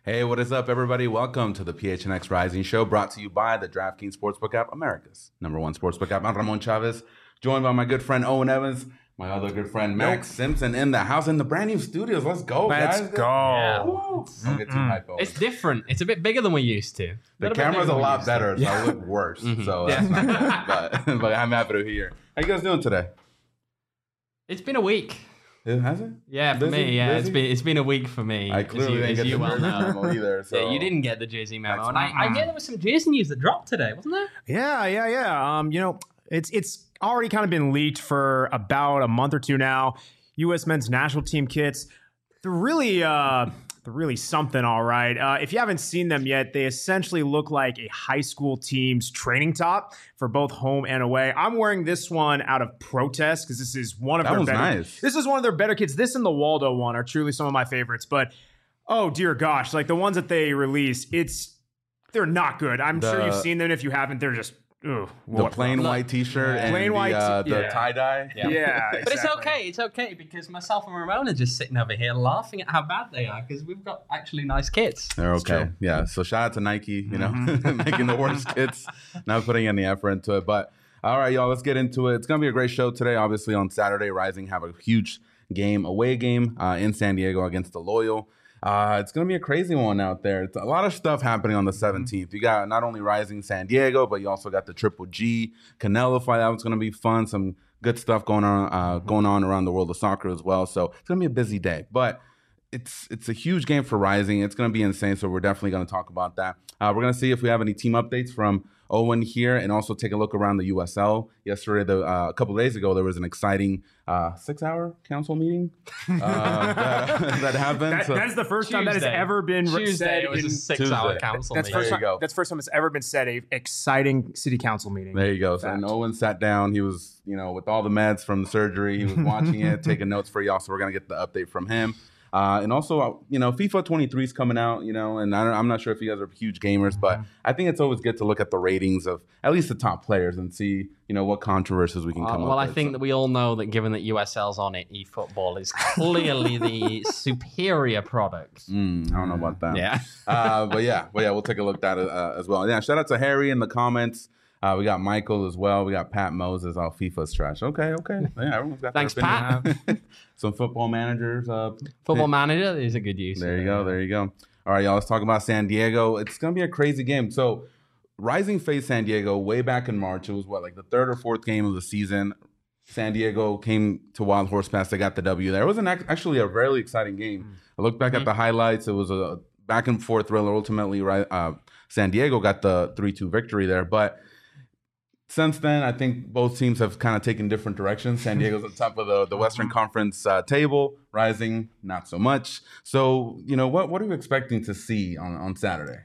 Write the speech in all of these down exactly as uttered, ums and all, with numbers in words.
Hey, what is up, everybody? Welcome to the P H N X Rising Show, brought to you by the DraftKings Sportsbook app, America's number one sportsbook app. I'm Ramon Chavez, joined by my good friend Owen Evans, my other good friend Max Simpson in the house, in the brand new studios. Let's go, Let's guys. Let's go. Yeah. Don't get too hype, Owen. It's different. It's a bit bigger than we used to. The camera's a lot better, so I look worse. Mm-hmm. So that's yeah. not good. But, but I'm happy to hear. How you guys doing today? It's been a week. It has it? Yeah, for busy, me, yeah. busy? It's been it's been a week for me. I clearly you, didn't get the well Jersey memo either. So. Yeah, you didn't get the Jersey memo. That's and I, I hear there was some Jersey news that dropped today, wasn't there? Yeah, yeah, yeah. Um, you know, it's it's already kind of been leaked for about a month or two now. U S men's national team kits. They're really uh they're really something, all right. Uh, if you haven't seen them yet, they essentially look like a high school team's training top for both home and away. I'm wearing this one out of protest because this is one of that their was better. Nice. This is one of their better kits. This and the Waldo one are truly some of my favorites. But oh dear gosh, like the ones that they release, it's they're not good. I'm the, sure you've seen them. If you haven't, they're just. Ugh, the plain look, white T-shirt yeah. and plain white, the, uh, the yeah. tie-dye. Yeah, yeah exactly. But it's okay. It's okay because myself and Ramon are just sitting over here laughing at how bad they are because we've got actually nice kits. They're okay. Yeah. So shout out to Nike, you know, mm-hmm. making the worst kits, not putting any effort into it. But all right, y'all, let's get into it. It's going to be a great show today. Obviously, on Saturday, Rising have a huge game, away game uh, in San Diego against the Loyal. Uh, it's going to be a crazy one out there. It's a lot of stuff happening on the seventeenth. You got not only Rising San Diego, but you also got the Triple G Canelo fight. That was going to be fun. Some good stuff going on uh, going on around the world of soccer as well. So it's going to be a busy day. But it's it's a huge game for Rising. It's going to be insane. So we're definitely going to talk about that. Uh, we're going to see if we have any team updates from Owen here, and also take a look around the U S L. Yesterday, the, uh, a couple of days ago, there was an exciting uh, six-hour council meeting uh, that, that happened. That, so, that's the first Tuesday. time that has ever been Tuesday, said. It was in, a six-hour council that's meeting. First there you time, go. That's the first time it's ever been said, a exciting city council meeting. There you go. So, and Owen sat down. He was, you know, with all the meds from the surgery. He was watching it, taking notes for y'all. So we're going to get the update from him. Uh, and also, you know, FIFA twenty-three is coming out, you know, and I don't, I'm not sure if you guys are huge gamers, but I think it's always good to look at the ratings of at least the top players and see, you know, what controversies we can uh, come well, up I with. think so. that we all know that given that U S L's on it, eFootball is clearly the superior product. Mm, I don't know about that. Yeah. uh, but yeah, but yeah, we'll take a look at it uh, as well. Yeah, shout out to Harry in the comments. Uh, we got Michael as well. We got Pat Moses. All FIFA's trash. Okay, okay. Yeah, everyone's got Thanks, their Pat. Some football managers. Uh, Football Manager is a good use. There you go. There you go. All right, y'all. Let's talk about San Diego. It's gonna be a crazy game. So, Rising faced San Diego way back in March. It was what, like the third or fourth game of the season. San Diego came to Wild Horse Pass. They got the W there. It was an actually a really exciting game. I looked back mm-hmm. at the highlights. It was a back and forth thriller. Ultimately, right, uh, San Diego got the three two victory there, but. Since then, I think both teams have kind of taken different directions. San Diego's on top of the, the Western Conference uh, table. Rising, not so much. So, you know, what what are you expecting to see on, on Saturday?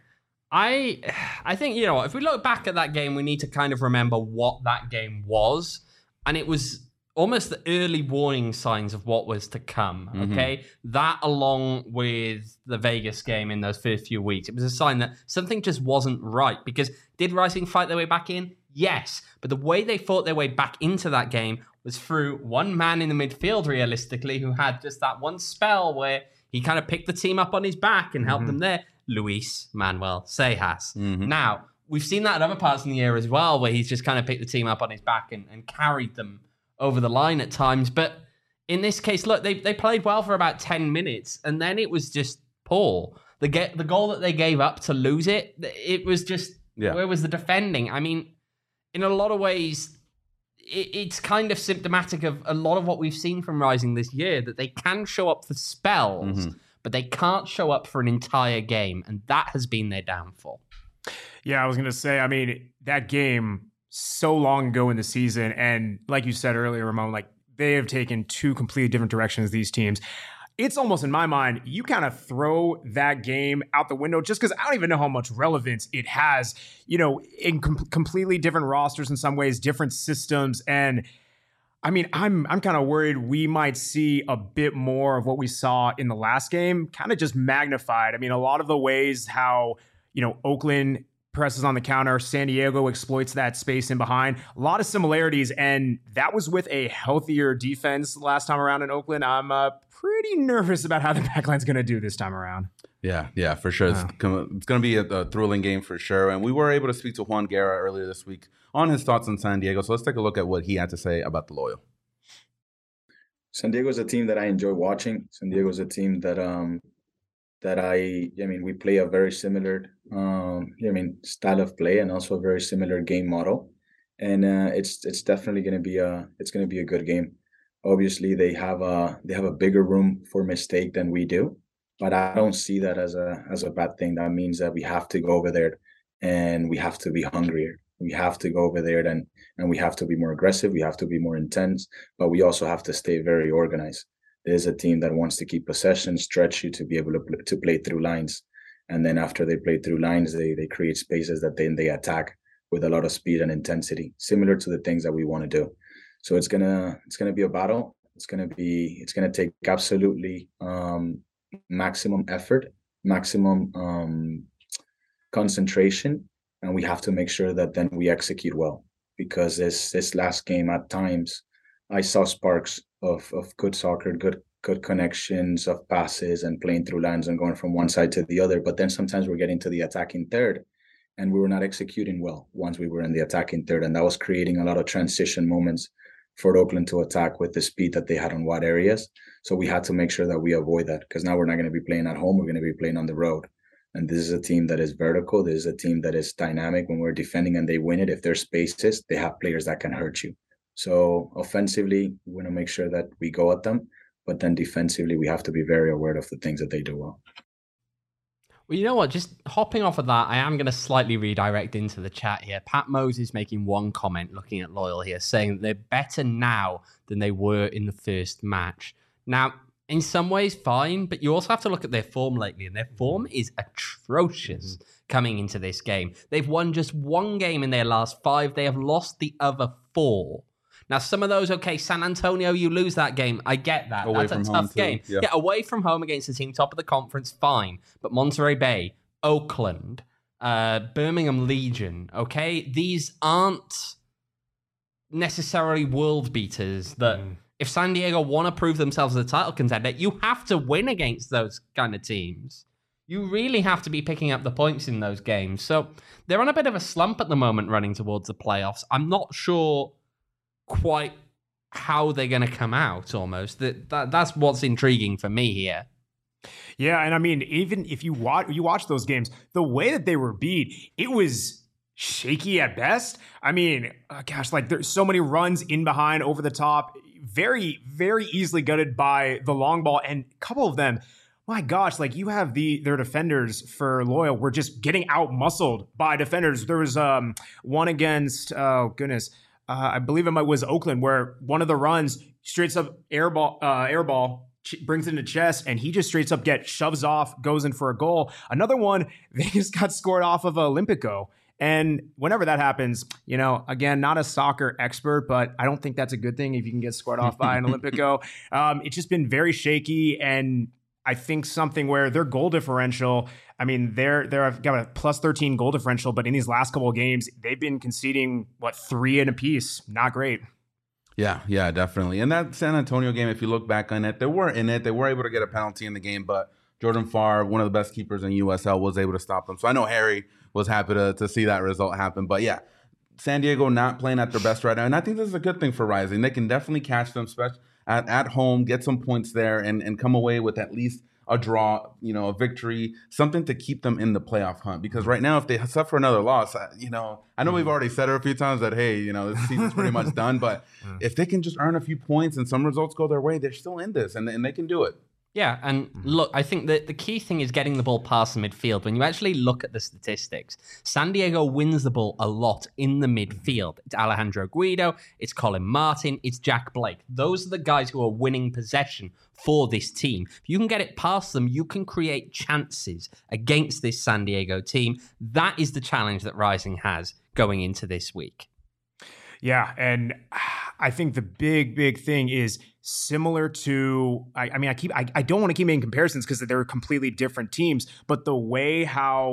I I think, you know, if we look back at that game, we need to kind of remember what that game was. And it was almost the early warning signs of what was to come, okay? Mm-hmm. That along with the Vegas game in those first few weeks, it was a sign that something just wasn't right. Because did Rising fight their way back in? Yes, but the way they fought their way back into that game was through one man in the midfield, realistically, who had just that one spell where he kind of picked the team up on his back and helped mm-hmm. them there. Luis Manuel Sejas. Mm-hmm. Now, we've seen that at other parts in the year as well, where he's just kind of picked the team up on his back and, and carried them over the line at times. But in this case, look, they they played well for about ten minutes, and then it was just poor. The get the goal that they gave up to lose it, it was just, yeah. Where was the defending? I mean, in a lot of ways, it, it's kind of symptomatic of a lot of what we've seen from Rising this year, that they can show up for spells, mm-hmm. but they can't show up for an entire game, and that has been their downfall. Yeah, I was going to say, I mean, that game so long ago in the season, and like you said earlier, Ramon, like they have taken two completely different directions, these teams. It's almost, in my mind, you kind of throw that game out the window just because I don't even know how much relevance it has, you know, in com- completely different rosters in some ways, different systems. And I mean, I'm I'm kind of worried we might see a bit more of what we saw in the last game, kind of just magnified. I mean, a lot of the ways how, you know, Oakland presses on the counter. San Diego exploits that space in behind. A lot of similarities, and that was with a healthier defense last time around in Oakland. I'm uh, pretty nervous about how the backline's going to do this time around. Yeah, yeah, for sure. It's, oh. it's going to be a, a thrilling game for sure. And we were able to speak to Juan Guerra earlier this week on his thoughts on San Diego. So let's take a look at what he had to say about the Loyal. San Diego is a team that I enjoy watching. San Diego is a team that um that I I mean we play a very similar um I mean style of play and also a very similar game model, and uh, it's it's definitely going to be a it's going to be a good game. Obviously, they have a they have a bigger room for mistake than we do, but I don't see that as a as a bad thing. That means that we have to go over there and we have to be hungrier. We have to go over there and and we have to be more aggressive. We have to be more intense, but we also have to stay very organized. There's a team that wants to keep possession, stretch you to be able to to play through lines, and then after they play through lines, they they create spaces that then they attack with a lot of speed and intensity, similar to the things that we want to do. So it's gonna it's gonna be a battle. It's gonna be it's gonna take absolutely um, maximum effort, maximum um, concentration. And we have to make sure that then we execute well, because this this last game at times I saw sparks of of good soccer, good good connections of passes and playing through lines and going from one side to the other. But then sometimes we're getting to the attacking third and we were not executing well once we were in the attacking third. And that was creating a lot of transition moments for Oakland to attack with the speed that they had on wide areas. So we had to make sure that we avoid that, because now we're not going to be playing at home. We're going to be playing on the road. And this is a team that is vertical. This is a team that is dynamic. When we're defending and they win it, if there's spaces, they have players that can hurt you. So offensively, we want to make sure that we go at them. But then defensively, we have to be very aware of the things that they do well. Well, you know what? Just hopping off of that, I am going to slightly redirect into the chat here. Pat Moses making one comment looking at Loyal here, saying that they're better now than they were in the first match. Now, in some ways, fine, but you also have to look at their form lately, and their form is atrocious coming into this game. They've won just one game in their last five. They have lost the other four. Now, some of those, okay, San Antonio, you lose that game. I get that. Away That's a from tough game. Yeah. yeah, away from home against the team top of the conference, fine. But Monterey Bay, Oakland, uh, Birmingham Legion, okay, these aren't necessarily world beaters that... Mm. If San Diego want to prove themselves as a title contender, you have to win against those kind of teams. You really have to be picking up the points in those games. So they're on a bit of a slump at the moment running towards the playoffs. I'm not sure quite how they're going to come out almost. That, that That's what's intriguing for me here. Yeah, and I mean, even if you watch, you watch those games, the way that they were beat, it was shaky at best. I mean, uh, gosh, like there's so many runs in behind, over the top, very, very easily gutted by the long ball. And a couple of them, my gosh, like you have the their defenders for Loyal were just getting out muscled by defenders. There was um one against, oh goodness, uh, I believe it was Oakland, where one of the runs straight up air ball, uh, air ball, brings it into chest, and he just straight up get shoves off, goes in for a goal. Another one, they just got scored off of Olympico. And whenever that happens, you know, again, not a soccer expert, but I don't think that's a good thing if you can get scored off by an Olympico. Um, it's just been very shaky, and I think something where their goal differential, I mean, they're they're got a plus thirteen goal differential, but in these last couple of games, they've been conceding, what, three in a piece. Not great. Yeah, yeah, definitely. And that San Antonio game, if you look back on it, they were in it. They were able to get a penalty in the game, but Jordan Farr, one of the best keepers in U S L, was able to stop them. So I know Harry was happy to, to see that result happen. But yeah, San Diego not playing at their best right now. And I think this is a good thing for Rising. They can definitely catch them at, at home, get some points there, and, and come away with at least a draw, you know, a victory, something to keep them in the playoff hunt. Because right now, if they suffer another loss, you know, I know we've already said it a few times that, hey, you know, this season's pretty much done. But if they can just earn a few points and some results go their way, they're still in this, and, and they can do it. Yeah, and look, I think that the key thing is getting the ball past the midfield. When you actually look at the statistics, San Diego wins the ball a lot in the midfield. It's Alejandro Guido, it's Colin Martin, it's Jack Blake. Those are the guys who are winning possession for this team. If you can get it past them, you can create chances against this San Diego team. That is the challenge that Rising has going into this week. Yeah, and I think the big, big thing is similar to, I, I mean, I keep, I, I don't want to keep making comparisons because they're completely different teams, but the way how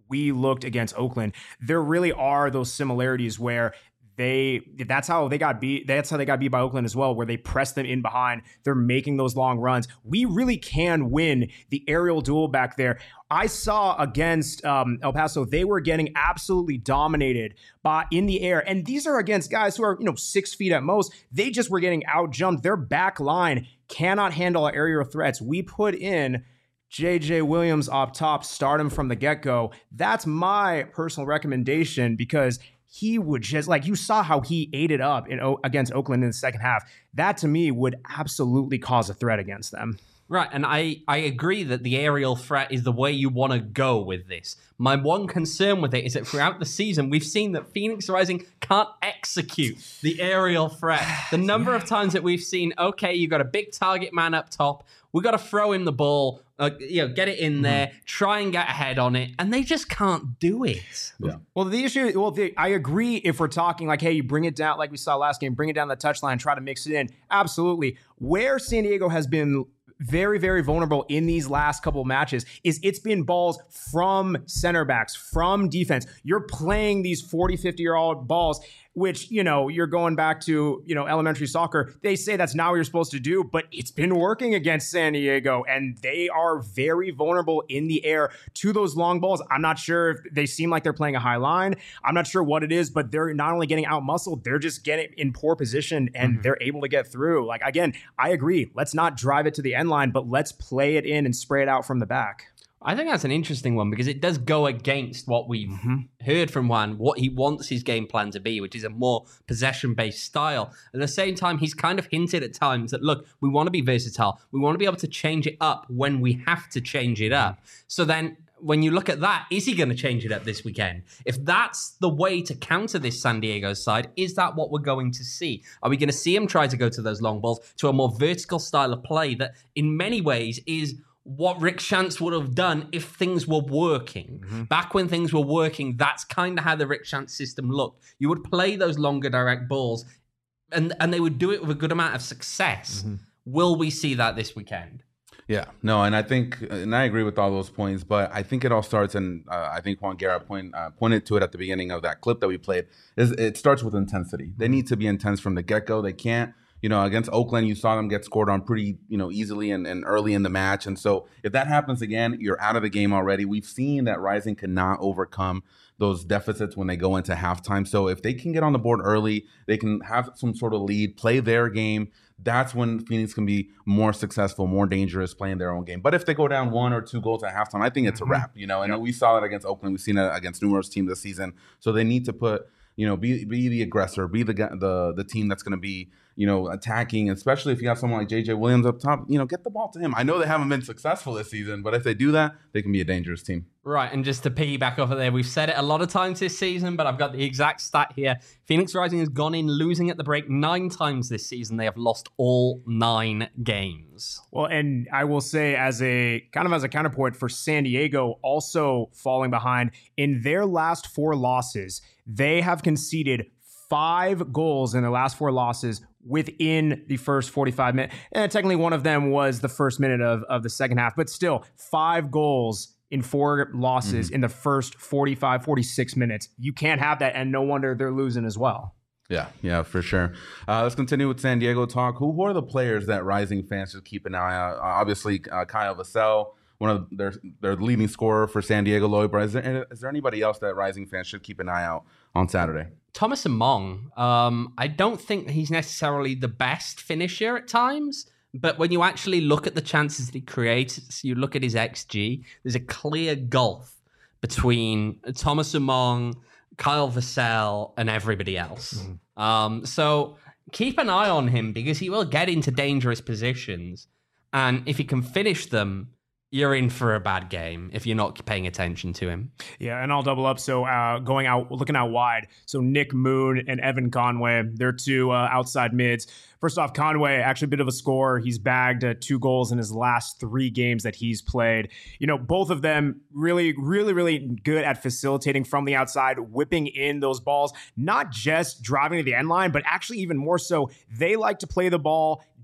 we looked against Oakland, there really are those similarities where They that's how they got beat. That's how they got beat by Oakland as well, where they pressed them in behind. They're making those long runs. We really can win the aerial duel back there. I saw against um, El Paso, they were getting absolutely dominated by in the air. And these are against guys who are, you know, six feet at most. They just were getting outjumped. Their back line cannot handle our aerial threats. We put in J J Williams up top, start him from the get-go. That's my personal recommendation because he would just, like, you saw how he ate it up in against Oakland in the second half. That, to me, would absolutely cause a threat against them. Right, and I, I agree that the aerial threat is the way you want to go with this. My one concern with it is that throughout the season, we've seen that Phoenix Rising can't execute the aerial threat. The number yeah. of times that we've seen, okay, you got a big target man up top, we got to throw him the ball, uh, you know, get it in mm-hmm. there, try and get ahead on it, and they just can't do it. Yeah. Well, the issue, well, the, I agree if we're talking like, hey, you bring it down, like we saw last game, bring it down the touchline, try to mix it in. Absolutely. Where San Diego has been very, very vulnerable in these last couple of matches is it's been balls from center backs, from defense. You're playing these forty, fifty-year-old balls, which, you know, you're going back to, you know, elementary soccer. They say that's not what you're supposed to do, but it's been working against San Diego, and they are very vulnerable in the air to those long balls. I'm not sure if they seem like they're playing a high line. I'm not sure what it is, but they're not only getting out-muscled, they're just getting in poor position, and mm-hmm. they're able to get through. Like, again, I agree. Let's not drive it to the end line, but let's play it in and spray it out from the back. I think that's an interesting one because it does go against what we've mm-hmm. heard from Juan, what he wants his game plan to be, which is a more possession-based style. At the same time, he's kind of hinted at times that, look, we want to be versatile. We want to be able to change it up when we have to change it up. So then when you look at that, is he going to change it up this weekend? If that's the way to counter this San Diego side, is that what we're going to see? Are we going to see him try to go to those long balls, to a more vertical style of play that in many ways is what Rick Schantz would have done if things were working? Mm-hmm. Back when things were working, that's kind of how the Rick Schantz system looked. You would play those longer direct balls, and, and they would do it with a good amount of success. Mm-hmm. Will we see that this weekend? Yeah, no, and I think, and I agree with all those points, but I think it all starts, and uh, I think Juan Guerra point, uh, pointed to it at the beginning of that clip that we played, is it starts with intensity. They need to be intense from the get-go. They can't, you know, against Oakland, you saw them get scored on pretty, you know, easily and, and early in the match. And so if that happens again, you're out of the game already. We've seen that Rising cannot overcome those deficits when they go into halftime. So if they can get on the board early, they can have some sort of lead, play their game. That's when Phoenix can be more successful, more dangerous, playing their own game. But if they go down one or two goals at halftime, I think it's mm-hmm. a wrap, you know. And yep. we saw it against Oakland. We've seen it against numerous teams this season. So they need to put, you know, be be the aggressor, be the the the team that's going to be, you know, attacking, especially if you have someone like J J Williams up top, you know, get the ball to him. I know they haven't been successful this season, but if they do that, they can be a dangerous team. Right, and just to piggyback off of there, we've said it a lot of times this season, but I've got the exact stat here. Phoenix Rising has gone in losing at the break nine times this season. They have lost all nine games. Well, and I will say as a kind of as a counterpoint for San Diego also falling behind in their last four losses, they have conceded five goals in their last four losses within the first forty-five minutes. And technically one of them was the first minute of, of the second half, but still five goals in four losses mm-hmm. in the first forty-five, forty-six minutes. You can't have that, and no wonder they're losing as well. Yeah, yeah, for sure. Uh, let's continue with San Diego talk. Who, who are the players that Rising fans should keep an eye on? Uh, obviously, uh, Kyle Vassell, one of their their leading scorer for San Diego Lloyd. But is there, is there anybody else that Rising fans should keep an eye out on Saturday? Thomas Among. Um, I don't think he's necessarily the best finisher at times, but when you actually look at the chances that he creates, you look at his X G, there's a clear gulf between Thomas Among, Kyle Vassell, and everybody else. Mm. Um, so keep an eye on him because he will get into dangerous positions. And if he can finish them, you're in for a bad game if you're not paying attention to him. Yeah, and I'll double up. So uh, going out, looking out wide. So Nick Moon and Evan Conway, they're two uh, outside mids. First off, Conway, actually a bit of a scorer. He's bagged uh, two goals in his last three games that he's played. You know, both of them really, really, really good at facilitating from the outside, whipping in those balls, not just driving to the end line, but actually even more so, they like to play the ball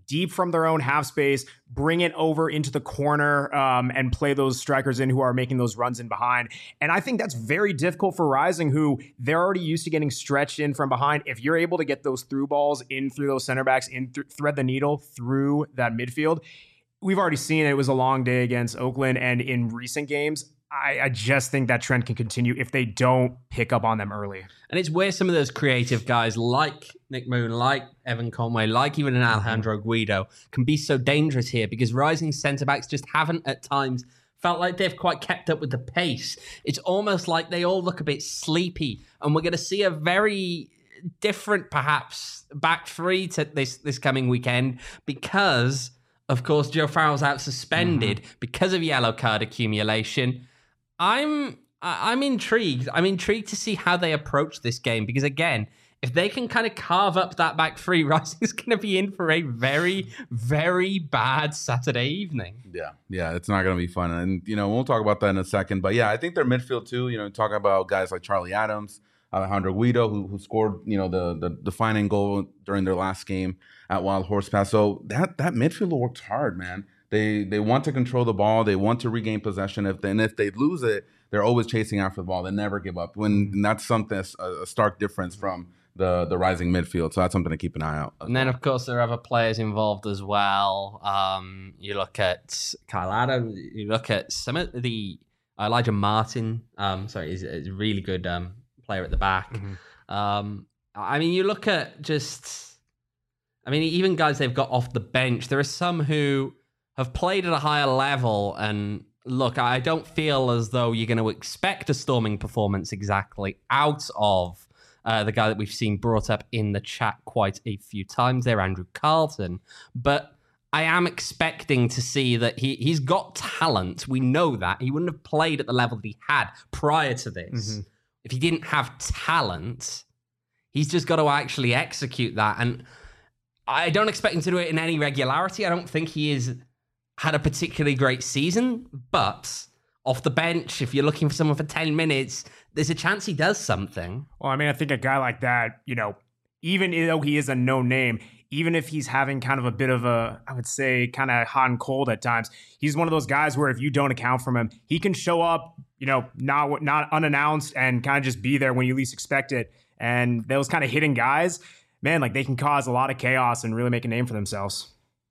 deep from their own half space, bring it over into the corner, um, and play those strikers in who are making those runs in behind. And I think that's very difficult for Rising, who they're already used to getting stretched in from behind. If you're able to get those through balls in through those center backs, in th- thread the needle through that midfield, we've already seen it. It was a long day against Oakland, and in recent games, I, I just think that trend can continue if they don't pick up on them early. And it's where some of those creative guys like Nick Moon, like Evan Conway, like even an Alejandro Guido can be so dangerous here, because Rising centre-backs just haven't at times felt like they've quite kept up with the pace. It's almost like they all look a bit sleepy, and we're going to see a very different, perhaps, back three to this, this coming weekend, because, of course, Joe Farrell's out suspended mm-hmm. because of yellow card accumulation. I'm I'm intrigued. I'm intrigued to see how they approach this game, because again, if they can kind of carve up that back three, Rising's going to be in for a very, very bad Saturday evening. Yeah, yeah, it's not going to be fun, and you know we'll talk about that in a second. But yeah, I think their midfield too. You know, talking about guys like Charlie Adams, Alejandro Guido, who who scored you know the the defining goal during their last game at Wild Horse Pass. So that that midfield works hard, man. They they want to control the ball. They want to regain possession. If then if they lose it, they're always chasing after the ball. They never give up. When and that's something a, a stark difference from the the Rising midfield. So that's something to keep an eye out. And then of course there are other players involved as well. Um, you look at Kyle Adams. You look at some of the Elijah Martin. Um, sorry, is a really good um, player at the back. Mm-hmm. Um, I mean, you look at just. I mean, even guys they've got off the bench. There are some who have played at a higher level, and look, I don't feel as though you're going to expect a storming performance exactly out of uh, the guy that we've seen brought up in the chat quite a few times there, Andrew Carlton. But I am expecting to see that he, he's got talent. We know that. He wouldn't have played at the level that he had prior to this. Mm-hmm. If he didn't have talent, he's just got to actually execute that. And I don't expect him to do it in any regularity. I don't think he is... had a particularly great season, but off the bench, if you're looking for someone for ten minutes, there's a chance he does something. Well, I mean, I think a guy like that, you know, even though he is a no name, even if he's having kind of a bit of a, I would say, kind of hot and cold at times, he's one of those guys where if you don't account for him, he can show up, you know, not not unannounced and kind of just be there when you least expect it. And those kind of hitting guys, man, like they can cause a lot of chaos and really make a name for themselves.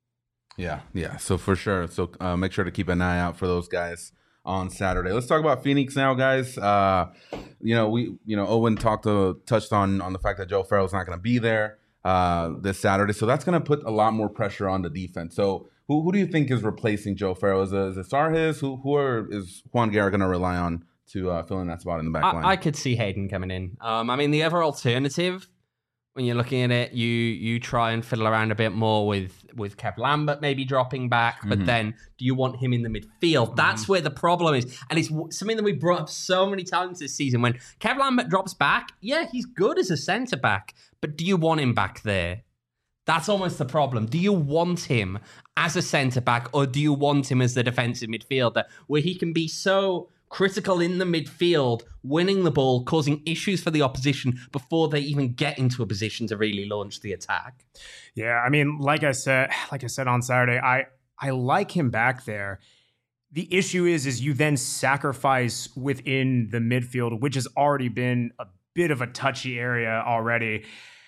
Yeah, yeah. So for sure. So uh, make sure to keep an eye out for those guys on Saturday. Let's talk about Phoenix now, guys. Uh, you know, we, you know, Owen talked to, touched on on the fact that Joe Farrell's not going to be there uh, this Saturday, so that's going to put a lot more pressure on the defense. So who who do you think is replacing Joe Farrell? Is it, is it Sarhis? Who who are, is Juan Guerra going to rely on to uh, fill in that spot in the back line? I, I could see Hayden coming in. Um, I mean, the other alternative, when you're looking at it, you you try and fiddle around a bit more with, with Kev Lambert maybe dropping back, but mm-hmm. then do you want him in the midfield? Mm-hmm. That's where the problem is. And it's something that we brought up so many times this season. When Kev Lambert drops back, yeah, he's good as a centre-back, but do you want him back there? That's almost the problem. Do you want him as a centre-back, or do you want him as the defensive midfielder, where he can be so critical in the midfield, winning the ball, causing issues for the opposition before they even get into a position to really launch the attack? Yeah, I mean, like I said, like I said on Saturday, I I like him back there. The issue is, is you then sacrifice within the midfield, which has already been a bit of a touchy area already.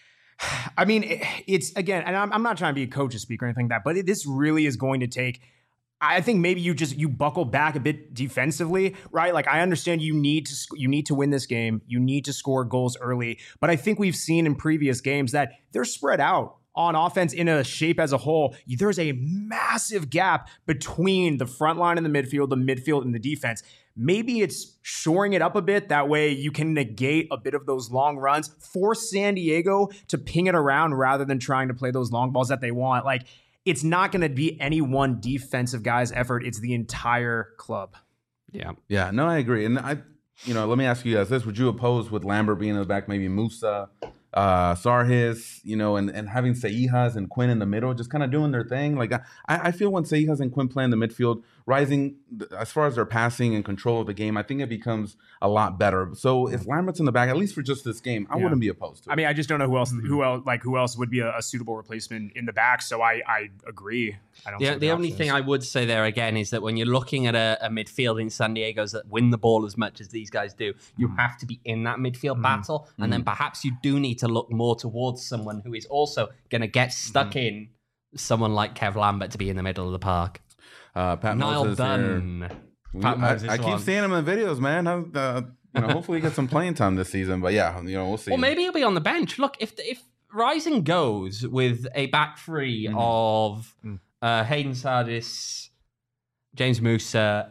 I mean, it, it's again, and I'm, I'm not trying to be a coach or speak or anything like that, but it, this really is going to take. I think maybe you just you buckle back a bit defensively, right? Like I understand you need to you need to win this game, you need to score goals early, but I think we've seen in previous games that they're spread out on offense in a shape as a whole. There's a massive gap between the front line and the midfield, the midfield and the defense. Maybe it's shoring it up a bit. That way you can negate a bit of those long runs, force San Diego to ping it around rather than trying to play those long balls that they want. Like, it's not going to be any one defensive guy's effort. It's the entire club. Yeah. Yeah, no, I agree. And I, you know, let me ask you guys this. Would you oppose with Lambert being in the back, maybe Musa, uh, Sarhis, you know, and, and having Seijas and Quinn in the middle, just kind of doing their thing? Like, I, I feel when Seijas and Quinn play in the midfield, Rising, as far as their passing and control of the game, I think it becomes a lot better. So if Lambert's in the back, at least for just this game, I yeah. wouldn't be opposed to it. I mean, I just don't know who else, who else, like who else would be a, a suitable replacement in the back. So I, I agree. I don't. The, the, the only thing I would say there again is that when you're looking at a, a midfield in San Diego's that win the ball as much as these guys do, you mm. have to be in that midfield mm. battle, and mm. then perhaps you do need to look more towards someone who is also going to get stuck mm. in. Someone like Kev Lambert to be in the middle of the park. Uh, Pat Niall Moses Dunn. Pat I, I keep seeing him in videos, man. Uh, you know, hopefully he gets some playing time this season. But yeah, you know, we'll see. Well, maybe he'll be on the bench. Look, if if Rising goes with a back three mm-hmm. of uh, Hayden Sardis, James Musa,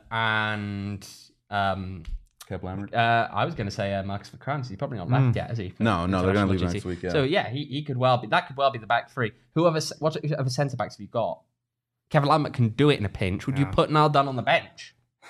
and um, Kev Lambert. Uh, I was going to say uh, Marcus Verkrantz. He's probably not left mm. yet, is he? No, no, they're going to leave next week. Yeah. So yeah, he, he could well be. That could well be the back three. Whoever, what other centre backs have you got? Kevin Lambert can do it in a pinch. Would yeah. you put Niall Dunn on the bench?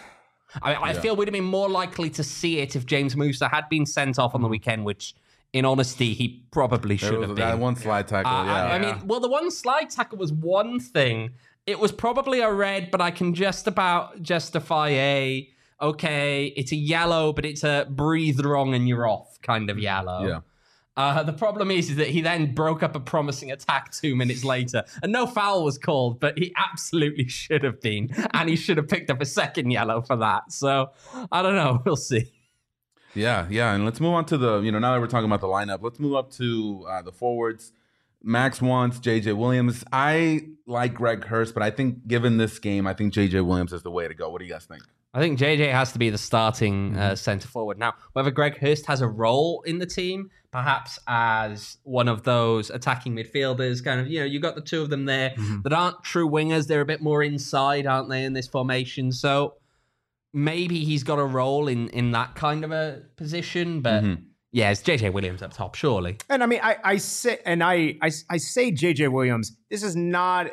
I, mean, I yeah. feel we'd have been more likely to see it if James Musa had been sent off on the weekend, which, in honesty, he probably should have been. That one slide tackle, uh, yeah. I, I mean, well, the one slide tackle was one thing. It was probably a red, but I can just about justify a, okay, it's a yellow, but it's a breathe wrong and you're off kind of yellow. Yeah. Uh, the problem is, is that he then broke up a promising attack two minutes later, and no foul was called, but he absolutely should have been, and he should have picked up a second yellow for that. So, I don't know. We'll see. Yeah, yeah, and let's move on to the, you know, now that we're talking about the lineup, let's move up to uh, the forwards. Max wants J J Williams. I like Greg Hurst, but I think given this game, I think J J Williams is the way to go. What do you guys think? I think J J has to be the starting mm-hmm. uh, centre forward. Now, whether Greg Hurst has a role in the team, perhaps as one of those attacking midfielders, kind of, you know, you got the two of them there mm-hmm. that aren't true wingers. They're a bit more inside, aren't they, in this formation? So maybe he's got a role in, in that kind of a position, but mm-hmm. yeah, it's J J Williams up top, surely. And I mean, I, I say, and I, I, I say J J Williams, this is not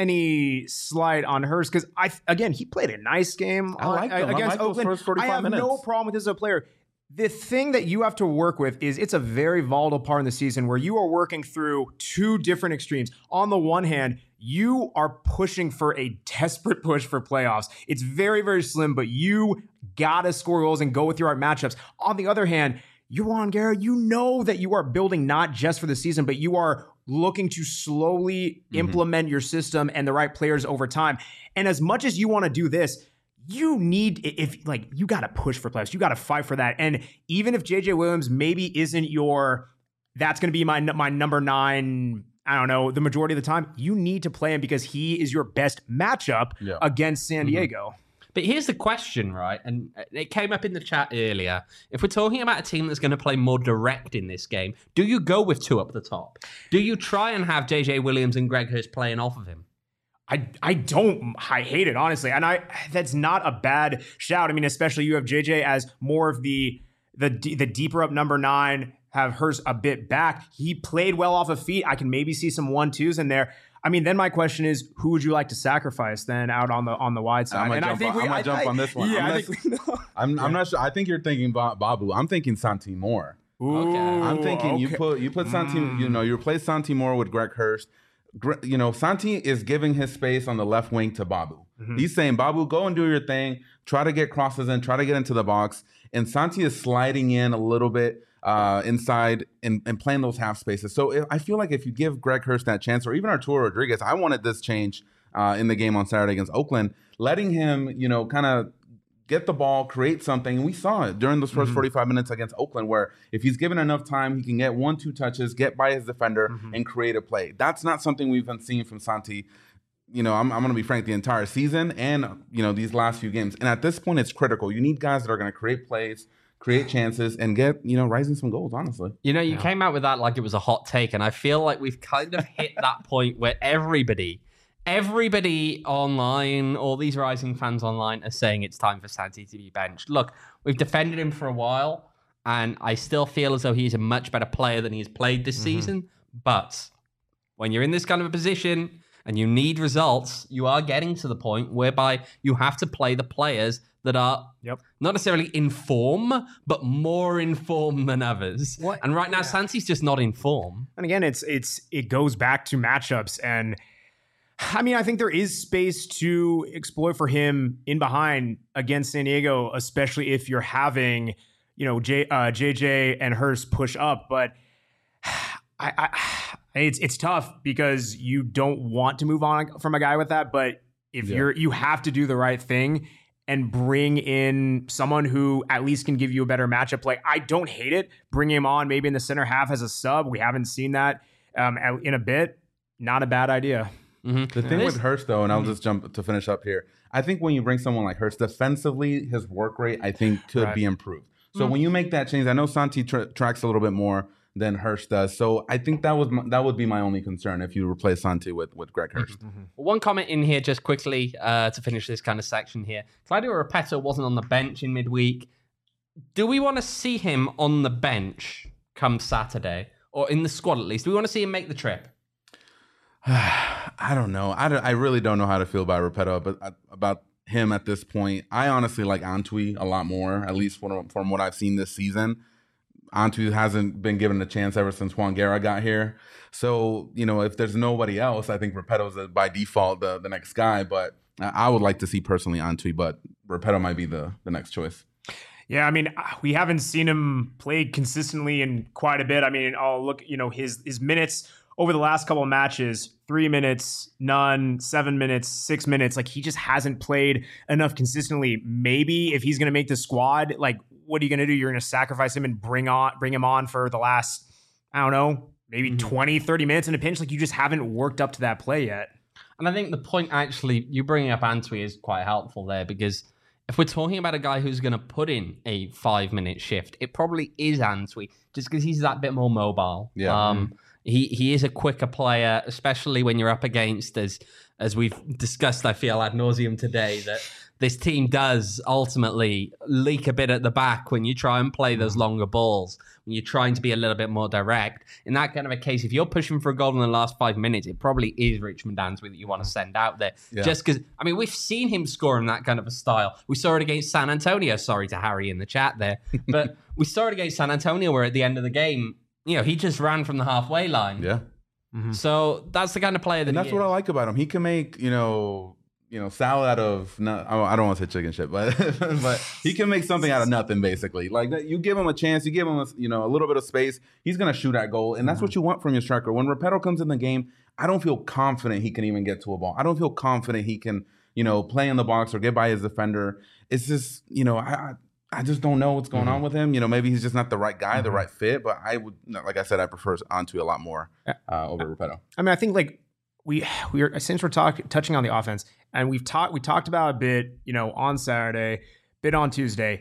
any slight on Hurst, because I again he played a nice game I like uh, against I like Oakland. First forty-five I have minutes. no problem with this as a player. The thing that you have to work with is it's a very volatile part in the season where you are working through two different extremes. On the one hand, you are pushing for a desperate push for playoffs. It's very, very slim, but you gotta score goals and go with your right matchups. On the other hand, you're Juan Guerra. You know that you are building not just for the season, but you are looking to slowly mm-hmm. implement your system and the right players over time. And as much as you want to do this, you need, if like, you got to push for playoffs. You got to fight for that. And even if J J Williams maybe isn't your, that's going to be my my number nine, I don't know, the majority of the time, you need to play him because he is your best matchup yeah. against San Diego. Mm-hmm. But here's the question, right? And it came up in the chat earlier. If we're talking about a team that's going to play more direct in this game, do you go with two up the top? Do you try and have J J Williams and Greg Hurst playing off of him? I I don't. I hate it, honestly. And I that's not a bad shout. I mean, especially you have J J as more of the the the deeper up number nine, have Hurst a bit back. He played well off of feet. I can maybe see some one-twos in there. I mean, then my question is, who would you like to sacrifice then out on the on the wide side? I'm gonna and jump, I think on, we, I'm gonna I, jump I, on this one. Yeah, I'm, I not, think, I'm, I'm not sure. I think you're thinking Babu. I'm thinking Santi Moore. Ooh, okay. I'm thinking okay. you put you put Santi. Mm. You know, you replace Santi Moore with Greg Hurst. You know, Santi is giving his space on the left wing to Babu. Mm-hmm. He's saying, Babu, go and do your thing. Try to get crosses in. Try to get into the box. And Santi is sliding in a little bit uh, inside and, and playing those half spaces. So if, I feel like if you give Greg Hurst that chance, or even Arturo Rodriguez, I wanted this change uh, in the game on Saturday against Oakland, letting him, you know, kind of get the ball, create something. And we saw it during those first mm-hmm. forty-five minutes against Oakland, where if he's given enough time, he can get one, two touches, get by his defender, mm-hmm. and create a play. That's not something we've been seeing from Santi, you know, I'm, I'm going to be frank, the entire season and, you know, these last few games. And at this point, it's critical. You need guys that are going to create plays, create chances, and get, you know, Rising some goals, honestly. You know, you yeah. came out with that like it was a hot take, and I feel like we've kind of hit that point where everybody... Everybody online, all these Rising fans online, are saying it's time for Santi to be benched. Look, we've defended him for a while, and I still feel as though he's a much better player than he's played this mm-hmm. season. But when you're in this kind of a position and you need results, you are getting to the point whereby you have to play the players that are yep. not necessarily in form, but more in form than others. What? And right now, yeah. Santi's just not in form. And again, it's it's it goes back to matchups and. I mean, I think there is space to exploit for him in behind against San Diego, especially if you're having, you know, J, uh, J J and Hurst push up. But I, I, it's it's tough because you don't want to move on from a guy with that. But if yeah. you're, you have to do the right thing and bring in someone who at least can give you a better matchup. Like, I don't hate it. Bring him on maybe in the center half as a sub. We haven't seen that um, in a bit. Not a bad idea. Mm-hmm. The thing with Hurst, though, and I'll just jump to finish up here, I think when you bring someone like Hurst, defensively, his work rate, I think, could right. be improved. So mm-hmm. when you make that change, I know Santi tra- tracks a little bit more than Hurst does. So I think that was my, that would be my only concern if you replace Santi with, with Greg Hurst. Mm-hmm. One comment in here just quickly uh, to finish this kind of section here. Claudio Repetto wasn't on the bench in midweek. Do we want to see him on the bench come Saturday, or in the squad at least? Do we want to see him make the trip? I don't know. I, don't, I really don't know how to feel about Repetto, but uh, about him at this point. I honestly like Antwi a lot more, at least from, from what I've seen this season. Antwi hasn't been given a chance ever since Juan Guerra got here. So, you know, if there's nobody else, I think Repetto's a, by default the, the next guy. But I would like to see personally Antwi, but Repetto might be the, the next choice. Yeah, I mean, we haven't seen him play consistently in quite a bit. I mean, I'll look, you know, his his minutes over the last couple of matches, three minutes, none, seven minutes, six minutes. Like, he just hasn't played enough consistently. Maybe if he's going to make the squad, like, what are you going to do? You're going to sacrifice him and bring on, bring him on for the last, I don't know, maybe mm-hmm. twenty, thirty minutes in a pinch. Like, you just haven't worked up to that play yet. And I think the point, actually, you bringing up Antwi is quite helpful there, because if we're talking about a guy who's going to put in a five-minute shift, it probably is Antwi, just because he's that bit more mobile. Yeah. Um, mm-hmm. He he is a quicker player, especially when you're up against, as as we've discussed, I feel, ad nauseum today, that this team does ultimately leak a bit at the back when you try and play those longer balls, when you're trying to be a little bit more direct. In that kind of a case, if you're pushing for a goal in the last five minutes, it probably is Richmond Antwi that you want to send out there. Yeah. Just because, I mean, we've seen him score in that kind of a style. We saw it against San Antonio. Sorry to Harry in the chat there. But we saw it against San Antonio, where at the end of the game, you know, he just ran from the halfway line. Yeah. Mm-hmm. So that's the kind of player that and that's he what is. I like about him. He can make, you know, you know, salad out of, not, I don't want to say chicken shit, but but he can make something out of nothing, basically. Like, you give him a chance, you give him, a, you know, a little bit of space, he's going to shoot that goal. And that's mm-hmm. what you want from your striker. When Repetto comes in the game, I don't feel confident he can even get to a ball. I don't feel confident he can, you know, play in the box or get by his defender. It's just, you know, I, I just don't know what's going mm-hmm. on with him. You know, maybe he's just not the right guy, mm-hmm. the right fit. But I would, like I said, I prefer Antwi a lot more uh, over Repetto. I mean, I think like we we are since we're talking touching on the offense, and we've talked we talked about a bit, you know, on Saturday, bit on Tuesday.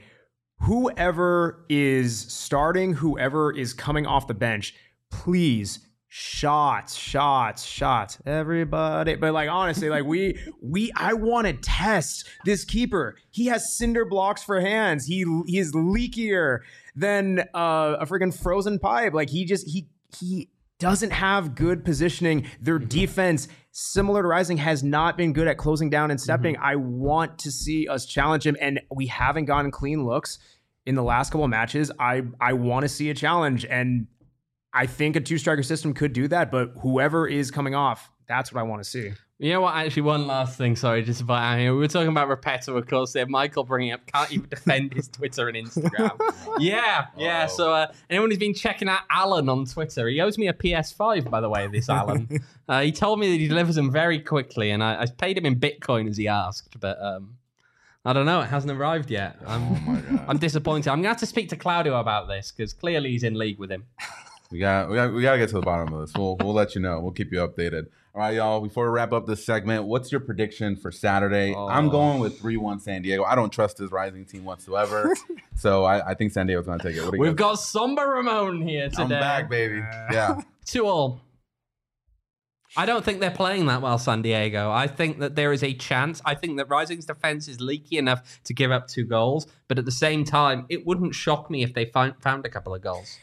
Whoever is starting, whoever is coming off the bench, please. Shots, shots, shots, everybody. But like, honestly, like we, we, I want to test this keeper. He has cinder blocks for hands. He, he is leakier than uh, a freaking frozen pipe. Like he just, he, he doesn't have good positioning. Their mm-hmm. defense, similar to Rising, has not been good at closing down and stepping. Mm-hmm. I want to see us challenge him, and we haven't gotten clean looks in the last couple of matches. I, I want to see a challenge, and I think a two-striker system could do that, but whoever is coming off, that's what I want to see. You know what? Actually, one last thing. Sorry, just about I mean, we were talking about Repetto, of course. There, Michael bringing up can't even defend his Twitter and Instagram. yeah, yeah. Oh. So uh, anyone who's been checking out Alan on Twitter, he owes me a P S five, by the way. This Alan, uh, he told me that he delivers them very quickly, and I, I paid him in Bitcoin as he asked, but. Um, I don't know. It hasn't arrived yet. I'm, oh my God. I'm disappointed. I'm going to have to speak to Claudio about this because clearly he's in league with him. We got, we got, we got to get to the bottom of this. We'll, we'll let you know. We'll keep you updated. All right, y'all. Before we wrap up this segment, what's your prediction for Saturday? Oh. I'm going with three one San Diego. I don't trust this Rising team whatsoever, so I, I think San Diego's going to take it. What do you We've guys? got Somber Ramon here today. I'm back, baby. Yeah. Two all. I don't think they're playing that well, San Diego. I think that there is a chance. I think that Rising's defense is leaky enough to give up two goals, but at the same time, it wouldn't shock me if they found, found a couple of goals.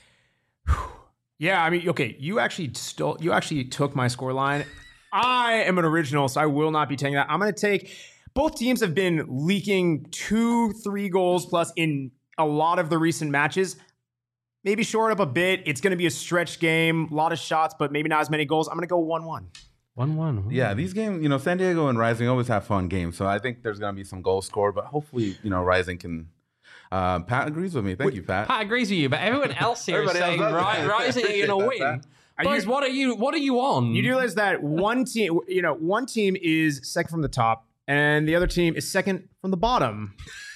Yeah, I mean, okay, you actually stole, you actually took my scoreline. I am an original, so I will not be taking that. I'm going to take, both teams have been leaking two, three goals plus in a lot of the recent matches. Maybe short up a bit. It's going to be a stretch game, a lot of shots, but maybe not as many goals. I'm going to go one one. one one. Yeah, these games, you know, San Diego and Rising always have fun games. So I think there's going to be some goals scored, but hopefully, you know, Rising can. Uh, Pat agrees with me. Thank you, Pat. Pat agrees with you, but everyone else here is Everybody saying else does. Ri- Rising are going to win. Pat. Are Boys, you- what are you? What are you on? You do realize that one team, you know, one team is second from the top, and the other team is second from the bottom.